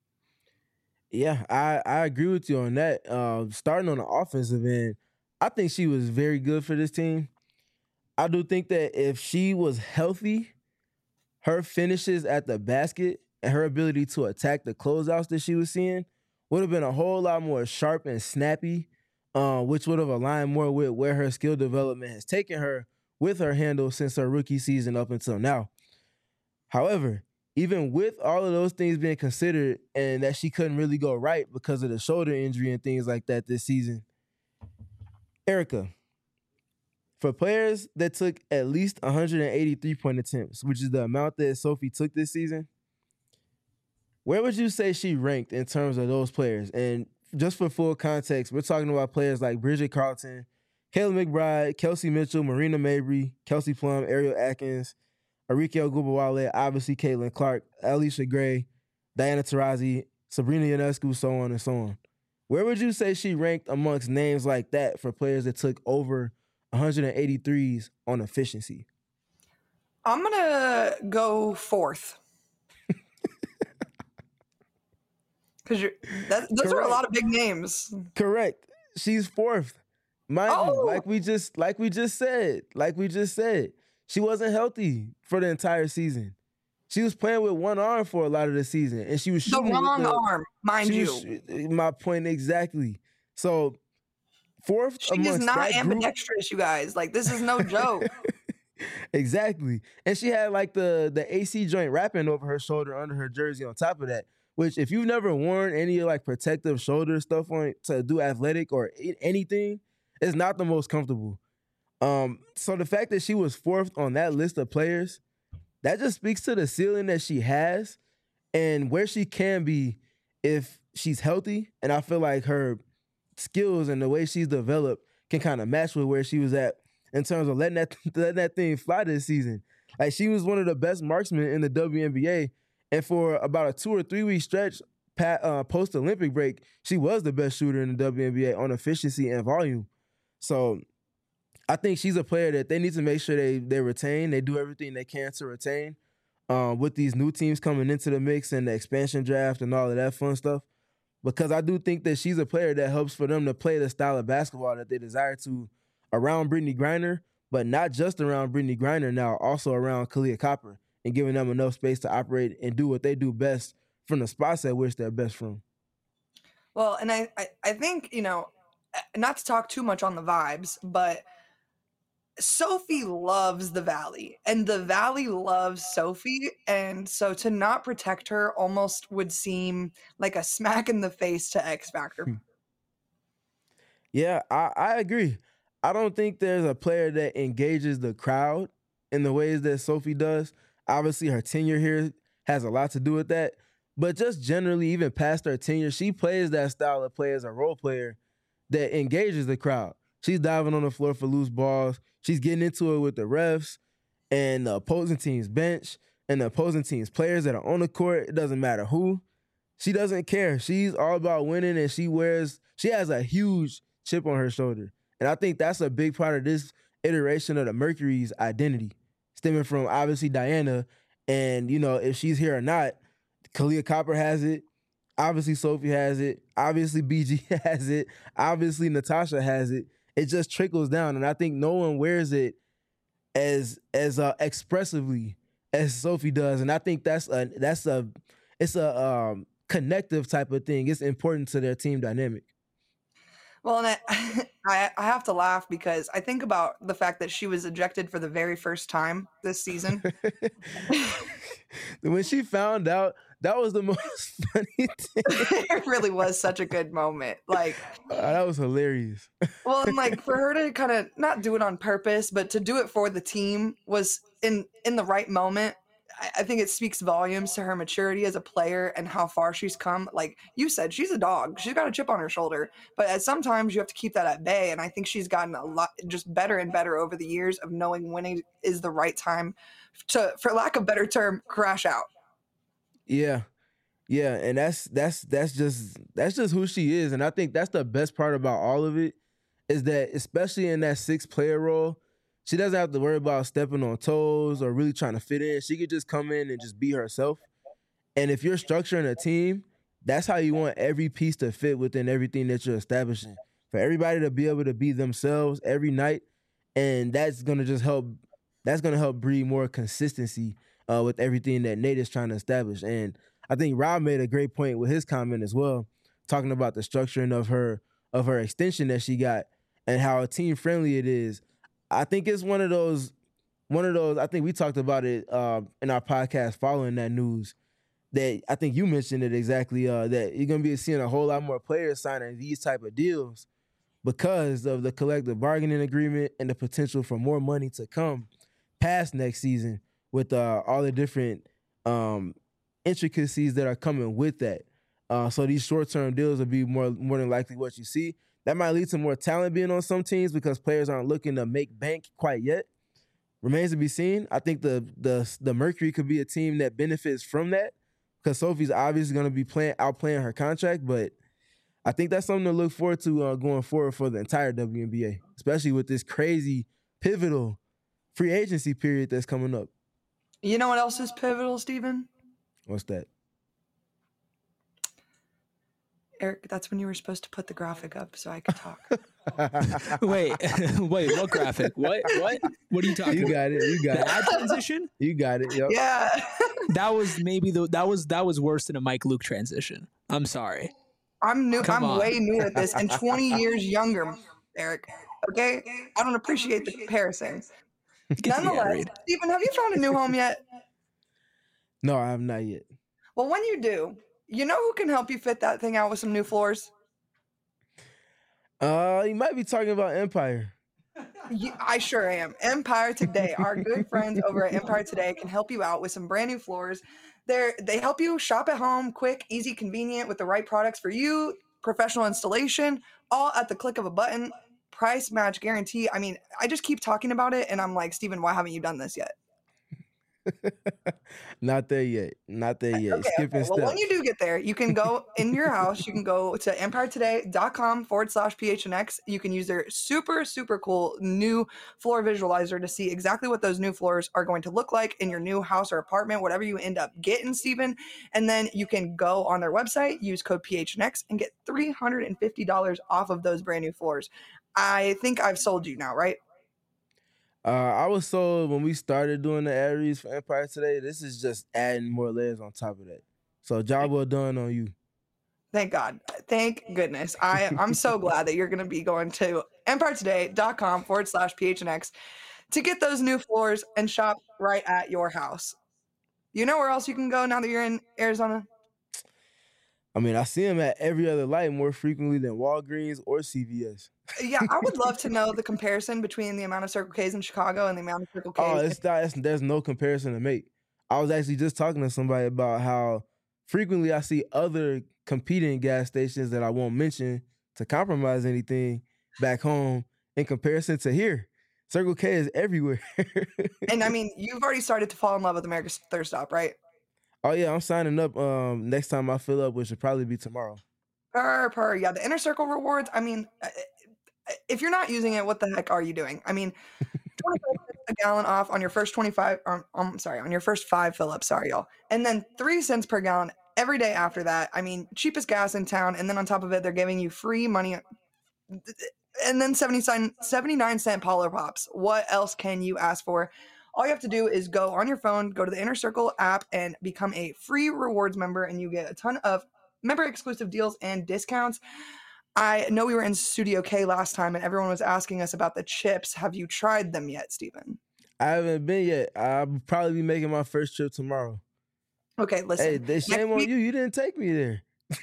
Yeah, I, I agree with you on that. Uh, starting on the offensive end, I think she was very good for this team. I do think that if she was healthy, her finishes at the basket and her ability to attack the closeouts that she was seeing would have been a whole lot more sharp and snappy, Uh, which would have aligned more with where her skill development has taken her with her handle since her rookie season up until now. However, even with all of those things being considered and that she couldn't really go right because of the shoulder injury and things like that this season, Erica, for players that took at least one hundred eighty-three point attempts, which is the amount that Sophie took this season, where would you say she ranked in terms of those players? And just for full context, we're talking about players like Bridget Carlton, Kayla McBride, Kelsey Mitchell, Marina Mabry, Kelsey Plum, Ariel Atkins, Arike Ogunbowale, obviously Caitlin Clark, Alicia Gray, Diana Taurasi, Sabrina Ionescu, so on and so on. Where would you say she ranked amongst names like that for players that took over one hundred eighty-threes on efficiency? I'm going to go fourth. Because those Correct. Are a lot of big names. Correct. She's fourth. Mind oh. you, like we just like we just said, like we just said, she wasn't healthy for the entire season. She was playing with one arm for a lot of the season, and she was shooting the wrong with the, arm, mind you. Was, my point exactly. So fourth, she is not ambidextrous, group, you guys. Like this is no joke. Exactly, and she had like the the A C joint wrapping over her shoulder under her jersey on top of that. Which, if you've never worn any like protective shoulder stuff on to do athletic or anything, it's not the most comfortable. Um, so the fact that she was fourth on that list of players, that just speaks to the ceiling that she has and where she can be if she's healthy. And I feel like her skills and the way she's developed can kind of match with where she was at in terms of letting that letting that thing fly this season. Like she was one of the best marksmen in the W N B A. And for about a two or three week stretch uh, post Olympic break, she was the best shooter in the W N B A on efficiency and volume. So I think she's a player that they need to make sure they they retain. They do everything they can to retain um, with these new teams coming into the mix and the expansion draft and all of that fun stuff. because I do think that she's a player that helps for them to play the style of basketball that they desire to around Brittany Griner, but not just around Brittany Griner now, also around Kahleah Copper, and giving them enough space to operate and do what they do best from the spots at which they're best from. Well, and I, I, I think, you know, not to talk too much on the vibes, but Sophie loves the Valley and the Valley loves Sophie. And so to not protect her almost would seem like a smack in the face to X Factor. Yeah, I, I agree. I don't think there's a player that engages the crowd in the ways that Sophie does. Obviously, her tenure here has a lot to do with that. But just generally, even past her tenure, she plays that style of play as a role player that engages the crowd. She's diving on the floor for loose balls. She's getting into it with the refs and the opposing team's bench and the opposing team's players that are on the court. It doesn't matter who. She doesn't care. She's all about winning, and she wears, she has a huge chip on her shoulder. And I think that's a big part of this iteration of the Mercury's identity, stemming from obviously Diana. And, you know, if she's here or not, Kahleah Copper has it. Obviously, Sophie has it. Obviously, B G has it. Obviously, Natasha has it. It just trickles down, and I think no one wears it as as uh, expressively as Sophie does. And I think that's a that's a it's a um, connective type of thing. It's important to their team dynamic. Well, and I, I I have to laugh because I think about the fact that she was ejected for the very first time this season. When she found out, that was the most funny thing. It really was such a good moment. Like, uh, that was hilarious. Well, and like for her to kind of not do it on purpose, but to do it for the team was in in the right moment. I, I think it speaks volumes to her maturity as a player and how far she's come. Like you said, she's a dog. She's got a chip on her shoulder, but at sometimes you have to keep that at bay. And I think she's gotten a lot just better and better over the years of knowing when it is the right time to, for lack of better term, crash out. Yeah. Yeah, and that's that's that's just that's just who she is. And I think that's the best part about all of it is that, especially in that sixth player role, she doesn't have to worry about stepping on toes or really trying to fit in. She could just come in and just be herself. And if you're structuring a team, that's how you want every piece to fit within everything that you're establishing. For everybody to be able to be themselves every night, and that's gonna just help. That's gonna help breed more consistency uh, with everything that Nate is trying to establish. And I think Rob made a great point with his comment as well, talking about the structuring of her of her extension that she got and how team friendly it is. I think it's one of those, one of those. I think we talked about it uh, in our podcast following that news. That I think you mentioned it exactly. Uh, that you're gonna be seeing a whole lot more players signing these type of deals because of the collective bargaining agreement and the potential for more money to come past next season with uh, all the different um, intricacies that are coming with that. Uh, so these short-term deals will be more more than likely what you see. That might lead to more talent being on some teams because players aren't looking to make bank quite yet. Remains to be seen. I think the the the Mercury could be a team that benefits from that because Sophie's obviously going to be playing outplaying her contract, but I think that's something to look forward to uh, going forward for the entire W N B A, especially with this crazy pivotal free agency period that's coming up. You know what else is pivotal, Steven? What's that? Eric, that's when you were supposed to put the graphic up so I could talk. wait, wait, what graphic? What? What? What are you talking You about? got it. You got The it. ad transition? You got it. Yep. Yeah. That was maybe the that was that was worse than a Mike Luke transition. I'm sorry. I'm new. Come I'm on. way new at this and twenty years younger, Eric. Okay? I don't appreciate the comparison. Yeah, Nonetheless, Reed. Stephen, have you found a new home yet? No, I have not yet. Well, when you do, you know who can help you fit that thing out with some new floors? Uh, you might be talking about Empire. You, I sure am. Empire Today, our good friends over at Empire Today can help you out with some brand new floors. They're, they help you shop at home, quick, easy, convenient, with the right products for you, professional installation, all at the click of a button, price match guarantee. I mean, I just keep talking about it, and I'm like, Steven, why haven't you done this yet? Not there yet. Not there yet. Okay, Skipping okay. Well, when you steps. do get there, you can go in your house. You can go to empiretoday.com forward slash PHNX. You can use their super, super cool new floor visualizer to see exactly what those new floors are going to look like in your new house or apartment, whatever you end up getting, Stephen. And then you can go on their website, use code P H N X, and get three hundred fifty dollars off of those brand new floors. I think I've sold you now, right? Uh, I was sold when we started doing the Aries for Empire Today. This is just adding more layers on top of that. So job well done on you. Thank God. Thank goodness. I, I'm so glad that you're going to be going to empiretoday.com forward slash PHNX to get those new floors and shop right at your house. You know where else you can go now that you're in Arizona? I mean, I see them at every other light more frequently than Walgreens or C V S. Yeah, I would love to know the comparison between the amount of Circle K's in Chicago and the amount of Circle K's. Oh, it's not, it's, there's no comparison to make. I was actually just talking to somebody about how frequently I see other competing gas stations that I won't mention to compromise anything back home in comparison to here. Circle K is everywhere. And I mean, you've already started to fall in love with America's Thirst Stop, right? Oh yeah, I'm signing up um, next time I fill up, which should probably be tomorrow. Per, per, yeah, the Inner Circle rewards, I mean, if you're not using it, what the heck are you doing? I mean, twenty-five cents a gallon off on your first twenty-five, um, I'm sorry, on your first five fill-ups, sorry, y'all. And then three cents per gallon every day after that. I mean, cheapest gas in town. And then on top of it, they're giving you free money. And then seventy-nine cent Polar Pops. What else can you ask for? All you have to do is go on your phone, go to the Inner Circle app, and become a free rewards member, and you get a ton of member-exclusive deals and discounts. I know we were in Studio K last time, and everyone was asking us about the chips. Have you tried them yet, Stephen? I haven't been yet. I'll probably be making my first trip tomorrow. Okay, listen. Hey, they shame on you. You didn't take me there.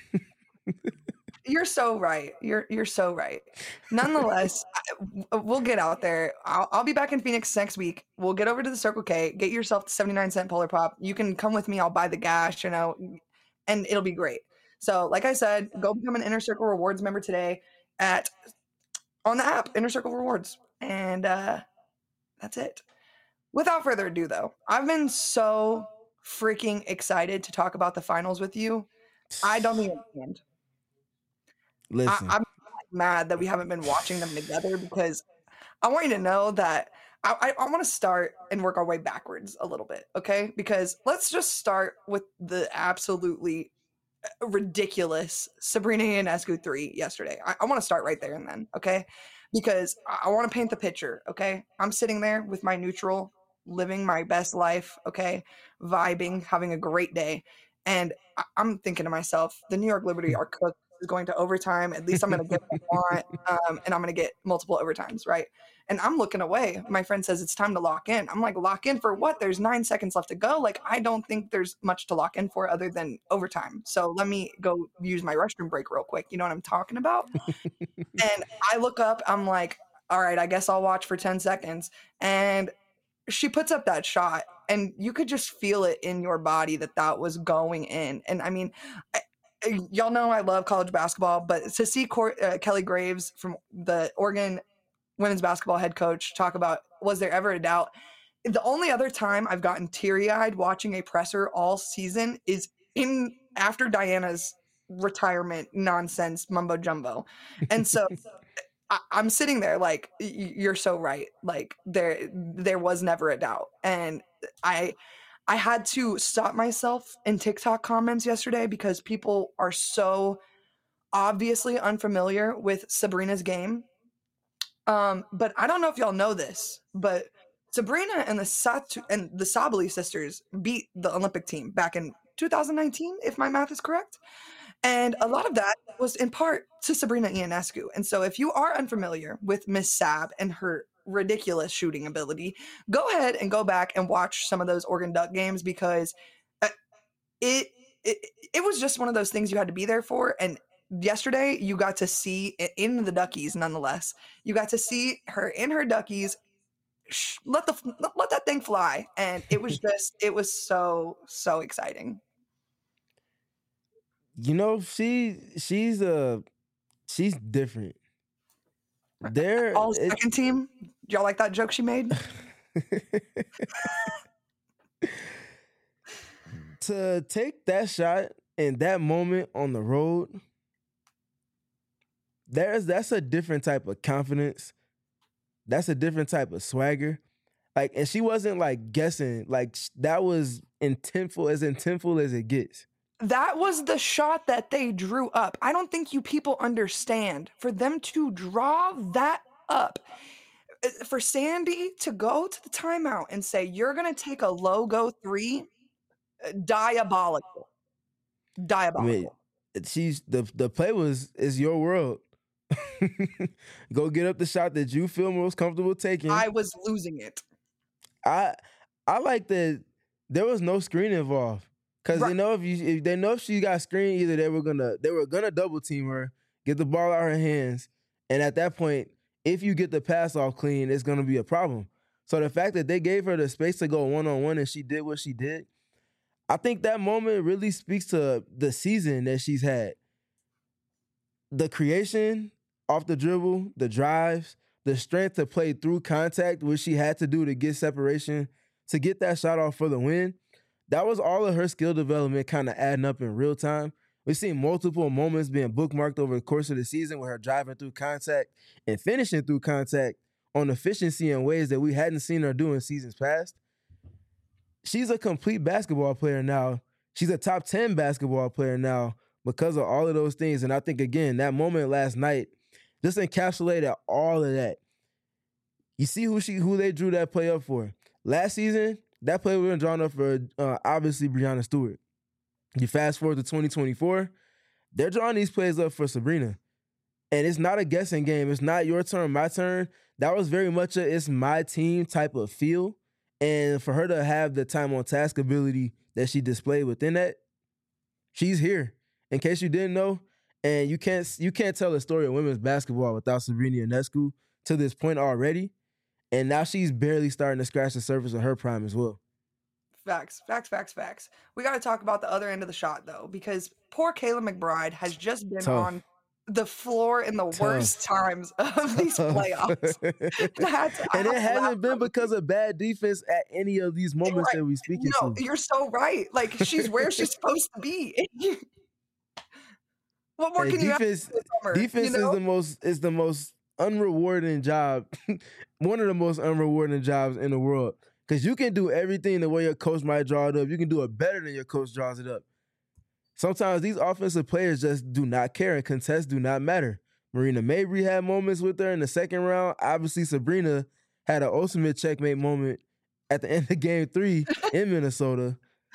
You're so right. You're you're so right. Nonetheless, I, we'll get out there. I'll, I'll be back in Phoenix next week. We'll get over to the Circle K. Get yourself the seventy-nine cent Polar Pop. You can come with me. I'll buy the gas, you know, and it'll be great. So, like I said, go become an Inner Circle Rewards member today at on the app Inner Circle Rewards, and uh, that's it. Without further ado, though, I've been so freaking excited to talk about the finals with you. I don't even understand. Listen, I, I'm mad that we haven't been watching them together because I want you to know that I, I, I want to start and work our way backwards a little bit, okay? Because let's just start with the absolutely ridiculous Sabrina Ionescu three yesterday. I, I want to start right there and then, okay? Because I, I want to paint the picture, okay? I'm sitting there with my neutral, living my best life, okay? Vibing, having a great day. And I, I'm thinking to myself, the New York Liberty are cooked. Is going to overtime. At least I'm going to get what I want, um, and I'm going to get multiple overtimes, right? And I'm looking away. My friend says it's time to lock in. I'm like, lock in for what? There's nine seconds left to go. Like, I don't think there's much to lock in for other than overtime. So let me go use my restroom break real quick. You know what I'm talking about? And I look up. I'm like, all right, I guess I'll watch for ten seconds. And she puts up that shot, and you could just feel it in your body that that was going in. And I mean, I, y'all know I love college basketball, but to see Cor- uh, Kelly Graves from the Oregon women's basketball head coach talk about, was there ever a doubt? The only other time I've gotten teary-eyed watching a presser all season is in after Diana's retirement nonsense mumbo jumbo. And so I, I'm sitting there like, you're so right. Like there, there was never a doubt. And I, I had to stop myself in TikTok comments yesterday because people are so obviously unfamiliar with Sabrina's game. Um, but I don't know if y'all know this, but Sabrina and the Satu- and the Sabali sisters beat the Olympic team back in two thousand nineteen, if my math is correct. And a lot of that was in part to Sabrina Ionescu. And so if you are unfamiliar with Miss Sab and her ridiculous shooting ability, go ahead and go back and watch some of those Oregon Duck games because it, it it was just one of those things you had to be there for. And yesterday you got to see in the Duckies, nonetheless, you got to see her in her Duckies let the let that thing fly, and it was just it was so so exciting. You know, she she's a she's different. There, all second team. Do y'all like that joke she made? To take that shot in that moment on the road, there's that's a different type of confidence. That's a different type of swagger. Like, and she wasn't like guessing. Like sh- that was intentful, as intentful as it gets. That was the shot that they drew up. I don't think you people understand. For them to draw that up, uh, for Sandy to go to the timeout and say, you're going to take a logo three, uh, diabolical. I mean, Diabolical. it- she's the the play was is your world. Go get up the shot that you feel most comfortable taking. I was losing it. I I like that there was no screen involved. Cause Right. they know if you if they know if she got screened, either they were gonna they were gonna double team her, get the ball out of her hands, and at that point, if you get the pass off clean, it's gonna be a problem. So the fact that they gave her the space to go one on one and she did what she did, I think that moment really speaks to the season that she's had. The creation off the dribble, the drives, the strength to play through contact, which she had to do to get separation, to get that shot off for the win. That was all of her skill development kind of adding up in real time. We've seen multiple moments being bookmarked over the course of the season with her driving through contact and finishing through contact on efficiency in ways that we hadn't seen her do in seasons past. She's a complete basketball player now. She's a top ten basketball player now because of all of those things. And I think, again, that moment last night just encapsulated all of that. You see who she who they drew that play up for. Last season, that play was drawn up for uh, obviously Breanna Stewart. You fast forward to twenty twenty-four, they're drawing these plays up for Sabrina. And it's not a guessing game. It's not your turn, my turn. That was very much a it's my team type of feel. And for her to have the time on task ability that she displayed within that, she's here. In case you didn't know, and you can't you can't tell a story of women's basketball without Sabrina Ionescu to this point already. And now she's barely starting to scratch the surface of her prime as well. Facts, facts, facts, facts. We got to talk about the other end of the shot, though, because poor Kayla McBride has just been Tough. on the floor in the worst times of these playoffs. And I had to- I And had it to hasn't laugh. been because of bad defense at any of these moments Right. that we speaking No, to. you're so right. Like, she's where she's supposed to be. What more Hey, can you ask defense for the summer? defense you know? is the most is the most unrewarding job, one of the most unrewarding jobs in the world. Because you can do everything the way your coach might draw it up. You can do it better than your coach draws it up. Sometimes these offensive players just do not care, and contests do not matter. Marina Mabry had moments with her in the second round. Obviously, Sabrina had an ultimate checkmate moment at the end of game three in Minnesota.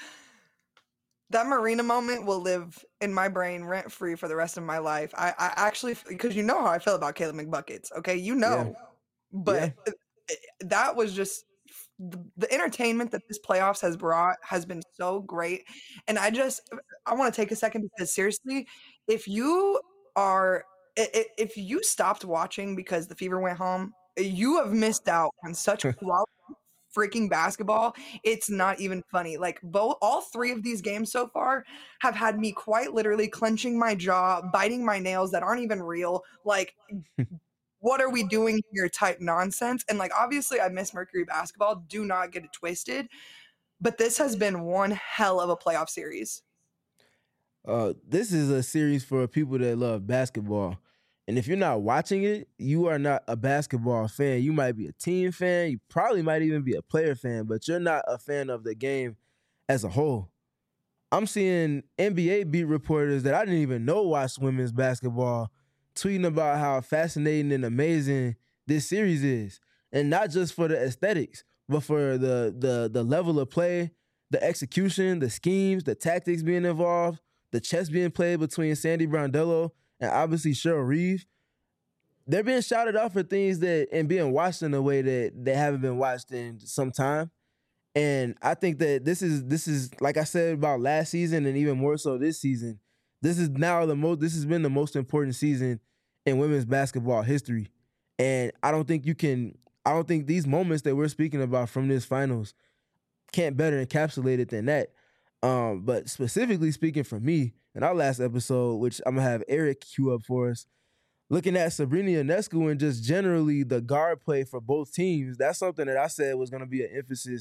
That Marina moment will live in my brain rent free for the rest of my life. I, I actually, because you know how I feel about Kayla McBuckets, okay? You know. But Yeah. that was just the, the entertainment that this playoffs has brought has been so great. And I just, I want to take a second because seriously, if you are, i- i- if you stopped watching because the Fever went home, you have missed out on such quality freaking basketball. It's not even funny. Like both, all three of these games so far have had me quite literally clenching my jaw, biting my nails that aren't even real. Like, what are we doing here type nonsense. And like, obviously I miss Mercury basketball. Do not get it twisted. But this has been one hell of a playoff series. Uh, this is a series for people that love basketball. And if you're not watching it, you are not a basketball fan. You might be a team fan. You probably might even be a player fan, but you're not a fan of the game as a whole. I'm seeing N B A beat reporters that I didn't even know watched women's basketball tweeting about how fascinating and amazing this series is. And not just for the aesthetics, but for the the the level of play, the execution, the schemes, the tactics being involved, the chess being played between Sandy Brondello and obviously Cheryl Reeve. They're being shouted out for things that and being watched in a way that they haven't been watched in some time. And I think that this is this is like I said about last season and even more so this season. This is now the most this has been the most important season in women's basketball history. And I don't think you can I don't think these moments that we're speaking about from this finals can't better encapsulate it than that. Um, but specifically speaking for me, in our last episode, which I'm gonna have Eric cue up for us, looking at Sabrina Ionescu and just generally the guard play for both teams, that's something that I said was gonna be an emphasis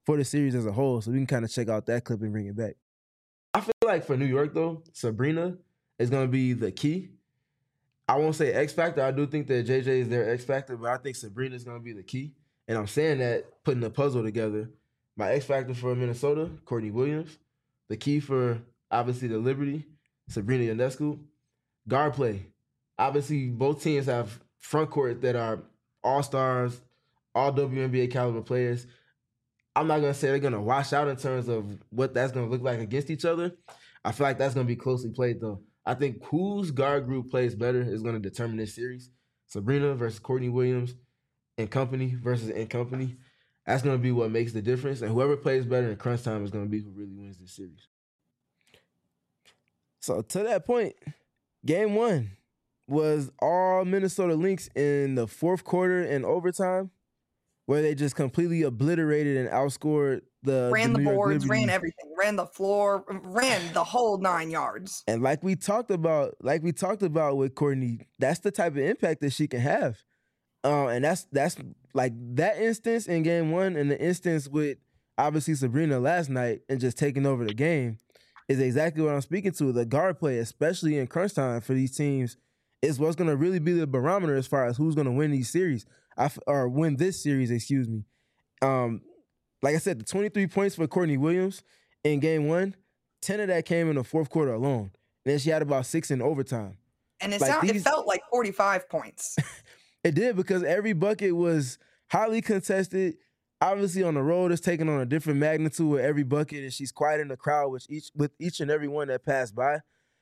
for the series as a whole. So we can kind of check out that clip and bring it back. I feel like for New York, though, Sabrina is going to be the key. I won't say X Factor. I do think that J J is their X Factor, but I think Sabrina is going to be the key. And I'm saying that, putting the puzzle together. My X Factor for Minnesota, Courtney Williams. The key for, obviously, the Liberty, Sabrina Ionescu. Guard play. Obviously, both teams have front court that are all-stars, all W N B A caliber players. I'm not going to say they're going to wash out in terms of what that's going to look like against each other. I feel like that's going to be closely played, though. I think whose guard group plays better is going to determine this series. Sabrina versus Courtney Williams and company versus in company. That's going to be what makes the difference. And whoever plays better in crunch time is going to be who really wins this series. So to that point, game one was all Minnesota Lynx in the fourth quarter and overtime, where they just completely obliterated and outscored the ran the, the boards, ran everything, ran the floor, ran the whole nine yards. And like we talked about, like we talked about with Courtney, that's the type of impact that she can have. Uh, and that's that's like that instance in game one and the instance with obviously Sabrina last night and just taking over the game is exactly what I'm speaking to. The guard play, especially in crunch time for these teams, is what's going to really be the barometer as far as who's going to win these series I, or win this series, excuse me. Um, like I said, the twenty-three points for Courtney Williams in game one, ten of that came in the fourth quarter alone. And then she had about six in overtime. And it, like sound, these, it felt like forty-five points. It did, because every bucket was highly contested. Obviously, on the road, it's taking on a different magnitude with every bucket, and she's quiet in the crowd with each with each and every one that passed by.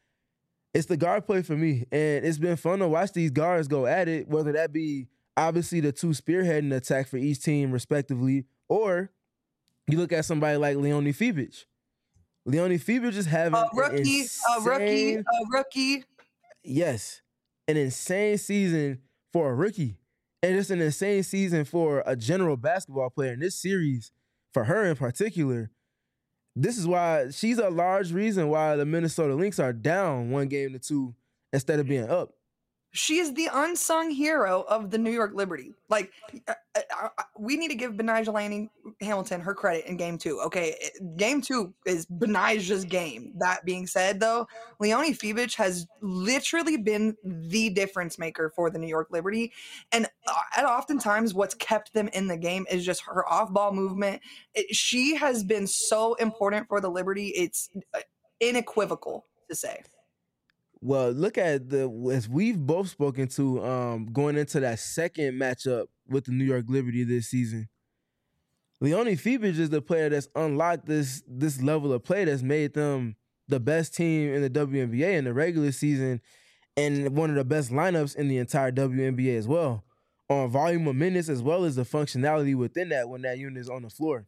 It's the guard play for me, and it's been fun to watch these guards go at it, whether that be obviously the two spearheading the attack for each team respectively, or you look at somebody like Leonie Fiebich. Leonie Fiebich is having a rookie, an insane, a rookie, a rookie. Yes, an insane season for a rookie. And it's an insane season for a general basketball player. In this series, for her in particular, this is why she's a large reason why the Minnesota Lynx are down one game to two instead of being up. She is the unsung hero of the New York Liberty. Like, uh, uh, we need to give Benijah Lanning Hamilton her credit in game two. Okay, game two is Benijah's game. That being said, though, Leonie Fiebich has literally been the difference maker for the New York Liberty. And uh, oftentimes what's kept them in the game is just her off-ball movement. It, she has been so important for the Liberty. It's uh, unequivocal to say. Well, look at the, as we've both spoken to um, going into that second matchup with the New York Liberty this season. Leonie Fiebich is the player that's unlocked this this level of play that's made them the best team in the W N B A in the regular season and one of the best lineups in the entire W N B A as well, on volume of minutes as well as the functionality within that when that unit is on the floor.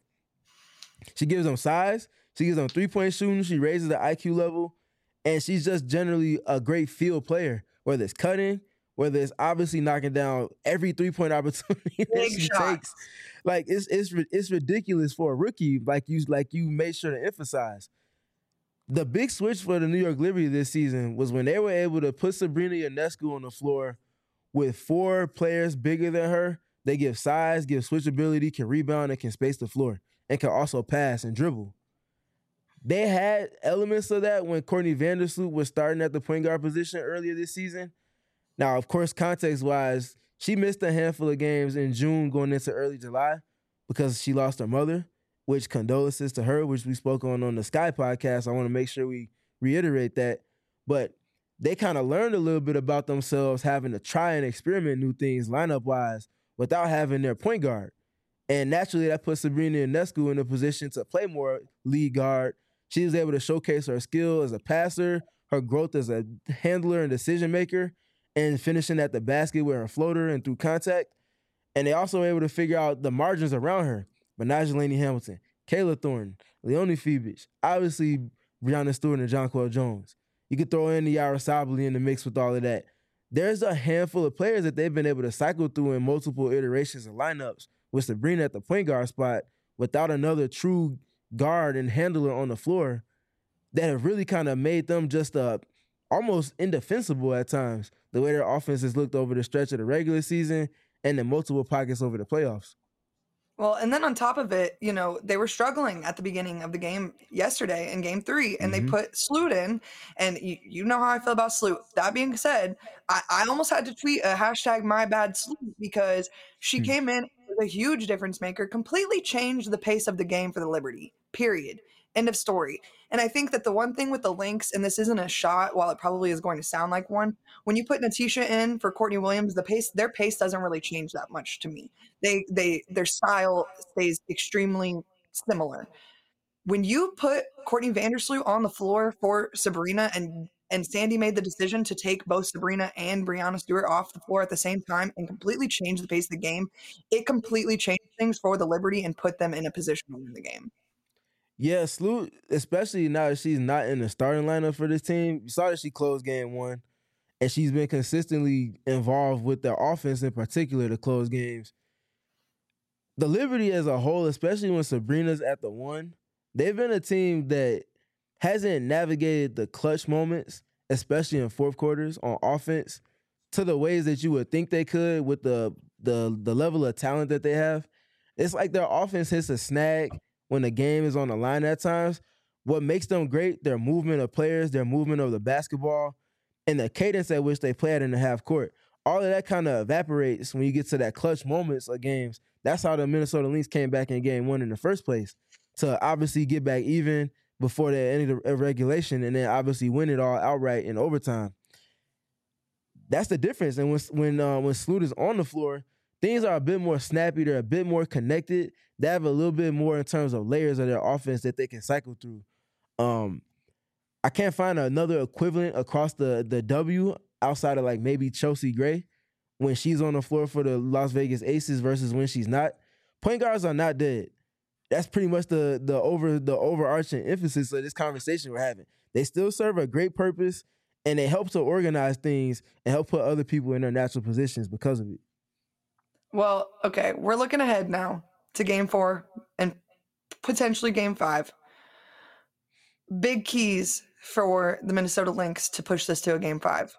She gives them size. She gives them three-point shooting. She raises the I Q level. And she's just generally a great field player, whether it's cutting, whether it's obviously knocking down every three-point opportunity that Big she shots. takes. Like, it's it's it's ridiculous for a rookie, like you like you made sure to emphasize. The big switch for the New York Liberty this season was when they were able to put Sabrina Ionescu on the floor with four players bigger than her. They give size, give switchability, can rebound, and can space the floor, and can also pass and dribble. They had elements of that when Courtney Vandersloot was starting at the point guard position earlier this season. Now, of course, context-wise, she missed a handful of games in June going into early July because she lost her mother, which condolences to her, which we spoke on on the Sky podcast. I want to make sure we reiterate that. But they kind of learned a little bit about themselves having to try and experiment new things lineup-wise without having their point guard. And naturally, that put Sabrina Ionescu in a position to play more lead guard. She was able to showcase her skill as a passer, her growth as a handler and decision maker, and finishing at the basket with her floater and through contact. And they also were able to figure out the margins around her. Benijah Lanning Hamilton, Kayla Thornton, Leonie Fiebich, obviously Breanna Stewart and Jonquel Jones. You could throw in the Yara Sabally in the mix with all of that. There's a handful of players that they've been able to cycle through in multiple iterations of lineups with Sabrina at the point guard spot without another true guard and handler on the floor that have really kind of made them just uh, almost indefensible at times, the way their offense has looked over the stretch of the regular season and in multiple pockets over the playoffs. Well, and then on top of it, you know, they were struggling at the beginning of the game yesterday in game three, and Mhm. they put Sloot in, and you, you know how I feel about Sloot. That being said, I, I almost had to tweet a hashtag my bad Sloot because she Hmm. came in as a huge difference maker, completely changed the pace of the game for the Liberty, period. End of story. And I think that the one thing with the Lynx, and this isn't a shot, while it probably is going to sound like one, when you put Natisha in for Courtney Williams, the pace, their pace doesn't really change that much to me. They they their style stays extremely similar. When you put Courtney Vandersloot on the floor for Sabrina and and Sandy made the decision to take both Sabrina and Brianna Stewart off the floor at the same time and completely change the pace of the game, it completely changed things for the Liberty and put them in a position to win the game. Yeah, Sloot, especially now that she's not in the starting lineup for this team. You saw that she closed game one, and she's been consistently involved with the offense in particular to close games. The Liberty as a whole, especially when Sabrina's at the one, they've been a team that hasn't navigated the clutch moments, especially in fourth quarters on offense, to the ways that you would think they could with the the the level of talent that they have. It's like their offense hits a snag when the game is on the line at times. What makes them great, their movement of players, their movement of the basketball, and the cadence at which they play it in the half court. All of that kind of evaporates when you get to that clutch moments of games. That's how the Minnesota Lynx came back in game one in the first place, to obviously get back even before the end of the regulation, and then obviously win it all outright in overtime. That's the difference. And when when uh, when Sloot is on the floor, things are a bit more snappy. They're a bit more connected. They have a little bit more in terms of layers of their offense that they can cycle through. Um, I can't find another equivalent across the the W outside of like maybe Chelsea Gray when she's on the floor for the Las Vegas Aces versus when she's not. Point guards are not dead. That's pretty much the the over the overarching emphasis of this conversation we're having. They still serve a great purpose, and they help to organize things and help put other people in their natural positions because of it. Well, okay, we're looking ahead now to game four and potentially game five. Big keys for the Minnesota Lynx to push this to a game five.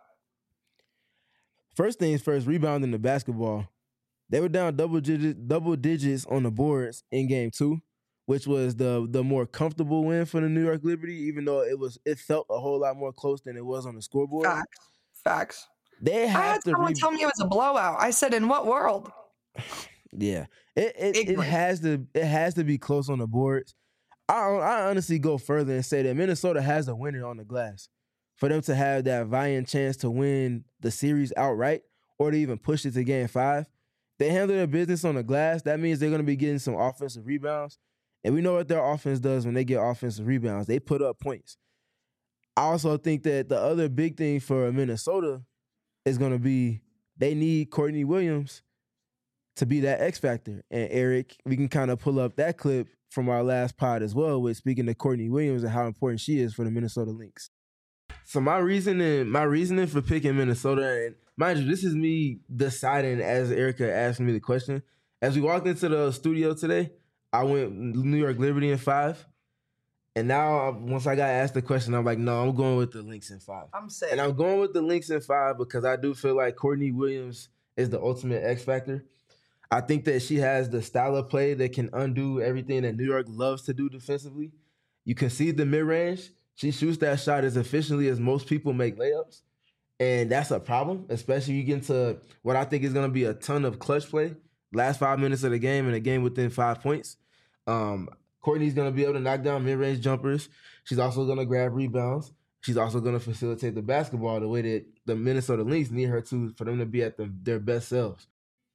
First things first, rebounding the basketball. They were down double digits, double digits on the boards in game two, which was the the more comfortable win for the New York Liberty, even though it was it felt a whole lot more close than it was on the scoreboard. Facts. Facts. They I have had to someone re- tell me it was a blowout. I said, in what world? Yeah. It it, it Ignorant. has to it has to be close on the boards. I I honestly go further and say that Minnesota has a winner on the glass. For them to have that valiant chance to win the series outright or to even push it to game five, they handle their business on the glass. That means they're going to be getting some offensive rebounds. And we know what their offense does when they get offensive rebounds. They put up points. I also think that the other big thing for Minnesota is going to be they need Courtney Williams to be that X factor. And Eric, we can kind of pull up that clip from our last pod as well with speaking to Courtney Williams and how important she is for the Minnesota Lynx. So my reasoning, my reasoning for picking Minnesota, and mind you, this is me deciding as Erica asked me the question. As we walked into the studio today, I went New York Liberty in five. And now, once I got asked the question, I'm like, no, I'm going with the Lynx in five. I'm sick. And I'm going with the Lynx in five because I do feel like Courtney Williams is the ultimate X factor. I think that she has the style of play that can undo everything that New York loves to do defensively. You can see the mid-range. She shoots that shot as efficiently as most people make layups. And that's a problem, especially you get into what I think is going to be a ton of clutch play. Last five minutes of the game and a game within five points. Um, Courtney's going to be able to knock down mid-range jumpers. She's also going to grab rebounds. She's also going to facilitate the basketball the way that the Minnesota Lynx need her to for them to be at the, their best selves.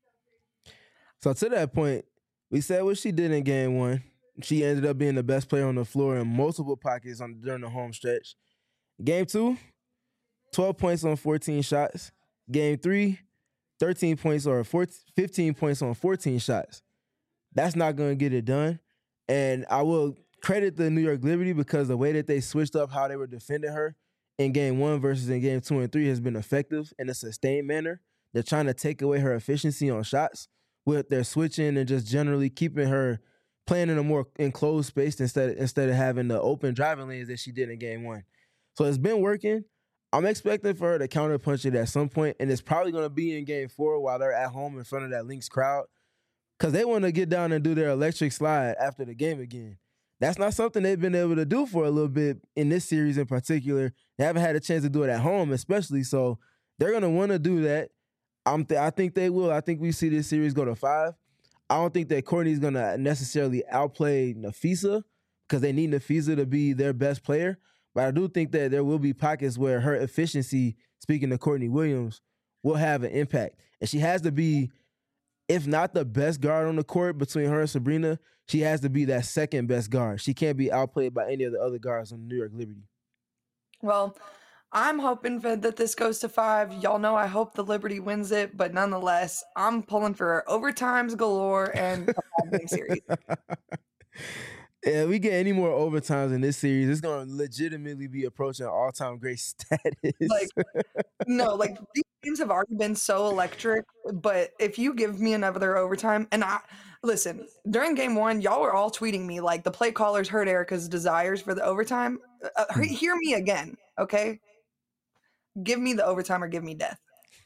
So to that point, we said what she did in game one. She ended up being the best player on the floor in multiple pockets on during the home stretch. Game two, twelve points on fourteen shots. Game three, thirteen points or fifteen points on fourteen shots. That's not going to get it done. And I will credit the New York Liberty because the way that they switched up how they were defending her in game one versus in game two and three has been effective in a sustained manner. They're trying to take away her efficiency on shots with their switching and just generally keeping her playing in a more enclosed space instead, instead of having the open driving lanes that she did in game one. So it's been working. I'm expecting for her to counterpunch it at some point, and it's probably going to be in game four while they're at home in front of that Lynx crowd. because they want to get down and do their electric slide after the game again. That's not something they've been able to do for a little bit in this series in particular. They haven't had a chance to do it at home, especially. So they're going to want to do that. I'm th- I think they will. I think we see this series go to five. I don't think that Courtney's going to necessarily outplay Nafisa because they need Nafisa to be their best player. But I do think that there will be pockets where her efficiency, speaking to Courtney Williams, will have an impact. And she has to be, if not the best guard on the court between her and Sabrina, she has to be that second best guard. She can't be outplayed by any of the other guards on the New York Liberty. Well, I'm hoping for, that this goes to five. Y'all know I hope the Liberty wins it, but nonetheless, I'm pulling for overtimes galore and a five-game series. Yeah, we get any more overtimes in this series, it's going to legitimately be approaching all-time great status. Like, no, like these games have already been so electric, but if you give me another overtime, and I listen, during game one, y'all were all tweeting me like the play callers heard Erica's desires for the overtime. Uh, he- hear me again, okay? Give me the overtime or give me death.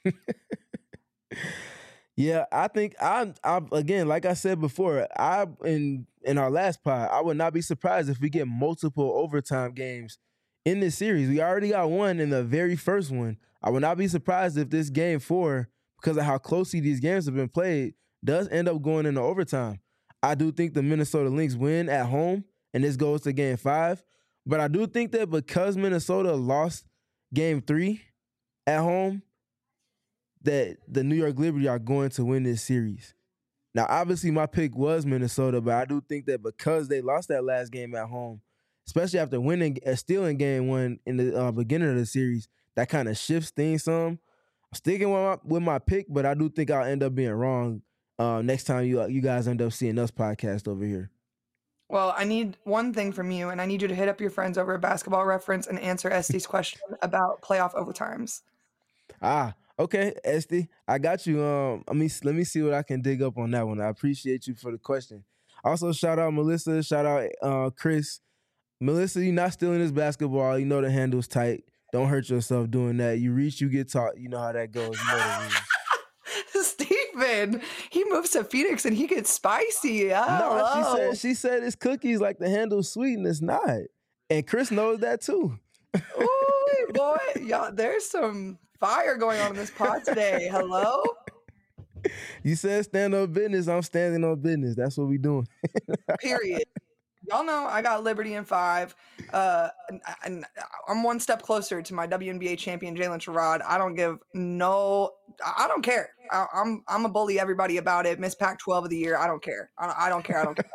Yeah, I think I, I again, like I said before, I in in our last pod, I would not be surprised if we get multiple overtime games in this series. We already got one in the very first one. I would not be surprised if this game four, because of how closely these games have been played, does end up going into overtime. I do think the Minnesota Lynx win at home, and this goes to game five. But I do think that because Minnesota lost game three at home, that the New York Liberty are going to win this series. Now, obviously, my pick was Minnesota, but I do think that because they lost that last game at home, especially after winning, uh, stealing game one in the uh, beginning of the series, that kind of shifts things some. I'm sticking with my, with my pick, but I do think I'll end up being wrong uh, next time you uh, you guys end up seeing us podcast over here. Well, I need one thing from you, and I need you to hit up your friends over at Basketball Reference and answer Este's question about playoff overtimes. Ah, okay, Esty, I got you. Um, I mean, let me see what I can dig up on that one. I appreciate you for the question. Also, shout out Melissa, shout out uh, Chris. Melissa, you're not stealing this basketball. You know the handle's tight. Don't hurt yourself doing that. You reach, you get taught. You know how that goes. You know the rules. Steven, he moves to Phoenix and he gets spicy. Oh, No, she hello. said she said it's cookies like the handle's sweet and it's not. And Chris knows that too. Ooh, boy, y'all, there's some fire going on in this pod today. Hello? You said stand on business. I'm standing on business. That's what we doing. Period. Y'all know I got Liberty in five. Uh, and, and I'm one step closer to my W N B A champion, Jalen Sherrod. I don't give no, I don't care. I, I'm I'm a bully everybody about it. Miss Pac twelve of the year. I don't care. I, I don't care. I don't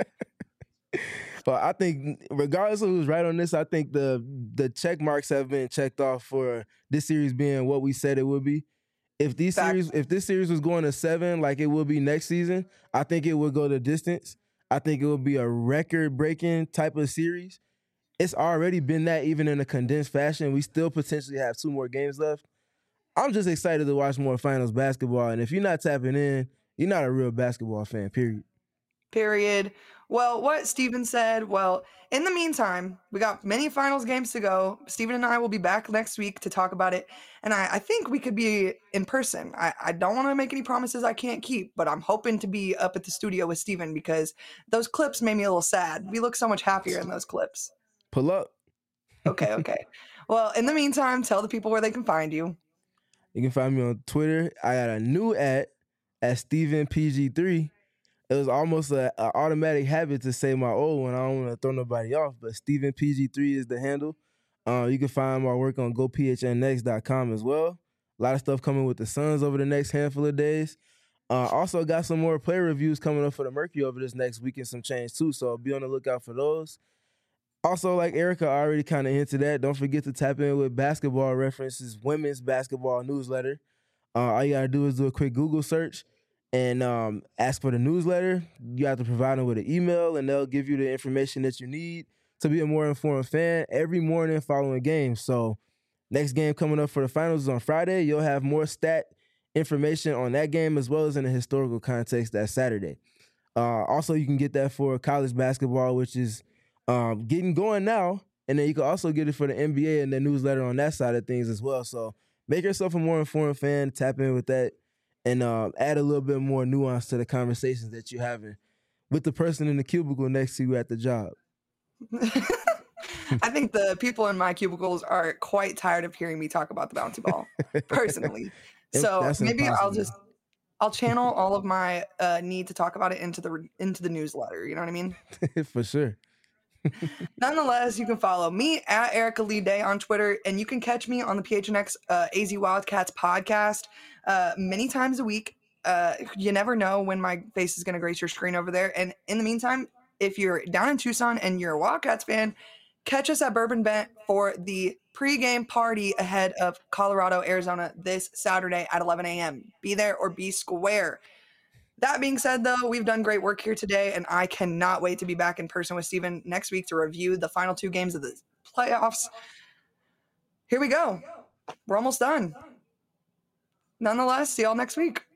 care. But I think regardless of who's right on this, I think the the check marks have been checked off for this series being what we said it would be. If these Fact. series, if this series was going to seven like it will be next season, I think it would go the distance. I think it would be a record-breaking type of series. It's already been that even in a condensed fashion. We still potentially have two more games left. I'm just excited to watch more finals basketball. And if you're not tapping in, you're not a real basketball fan, period. Period. Well, what Steven said, well, in the meantime, we got many finals games to go. Steven and I will be back next week to talk about it. And I, I think we could be in person. I, I don't want to make any promises I can't keep, but I'm hoping to be up at the studio with Steven because those clips made me a little sad. We look so much happier in those clips. Pull up. Okay, okay. Well, in the meantime, tell the people where they can find you. You can find me on Twitter. I got a new at at Steven P G three. It was almost an automatic habit to say my old one. I don't want to throw nobody off, but Steven P G three is the handle. Uh, you can find my work on go p h n x dot com as well. A lot of stuff coming with the Suns over the next handful of days. Uh, also got some more player reviews coming up for the Mercury over this next week and some change too, so be on the lookout for those. Also, like Erica already kind of hinted at, don't forget to tap in with Basketball References women's basketball newsletter. Uh, all you got to do is do a quick Google search and um, ask for the newsletter. You have to provide them with an email, and they'll give you the information that you need to be a more informed fan every morning following games. So next game coming up for the finals is on Friday. You'll have more stat information on that game as well as in the historical context that Saturday. Uh, also, you can get that for college basketball, which is um, getting going now. And then you can also get it for the N B A and the newsletter on that side of things as well. So make yourself a more informed fan, tap in with that. and uh, add a little bit more nuance to the conversations that you're having with the person in the cubicle next to you at the job. I think the people in my cubicles are quite tired of hearing me talk about the bouncy ball, personally. So That's maybe I'll impossible. just I'll channel all of my uh, need to talk about it into the into the newsletter. You know what I mean? For sure. Nonetheless, you can follow me at Erica Lee Day on Twitter, and you can catch me on the P H N X uh, A Z Wildcats podcast uh, many times a week. Uh, you never know when my face is going to grace your screen over there. And in the meantime, if you're down in Tucson and you're a Wildcats fan, catch us at Bourbon Bent for the pregame party ahead of Colorado, Arizona this Saturday at eleven a.m. Be there or be square. That being said, though, we've done great work here today, and I cannot wait to be back in person with Steven next week to review the final two games of the playoffs. Here we go. We're almost done. Nonetheless, see y'all next week.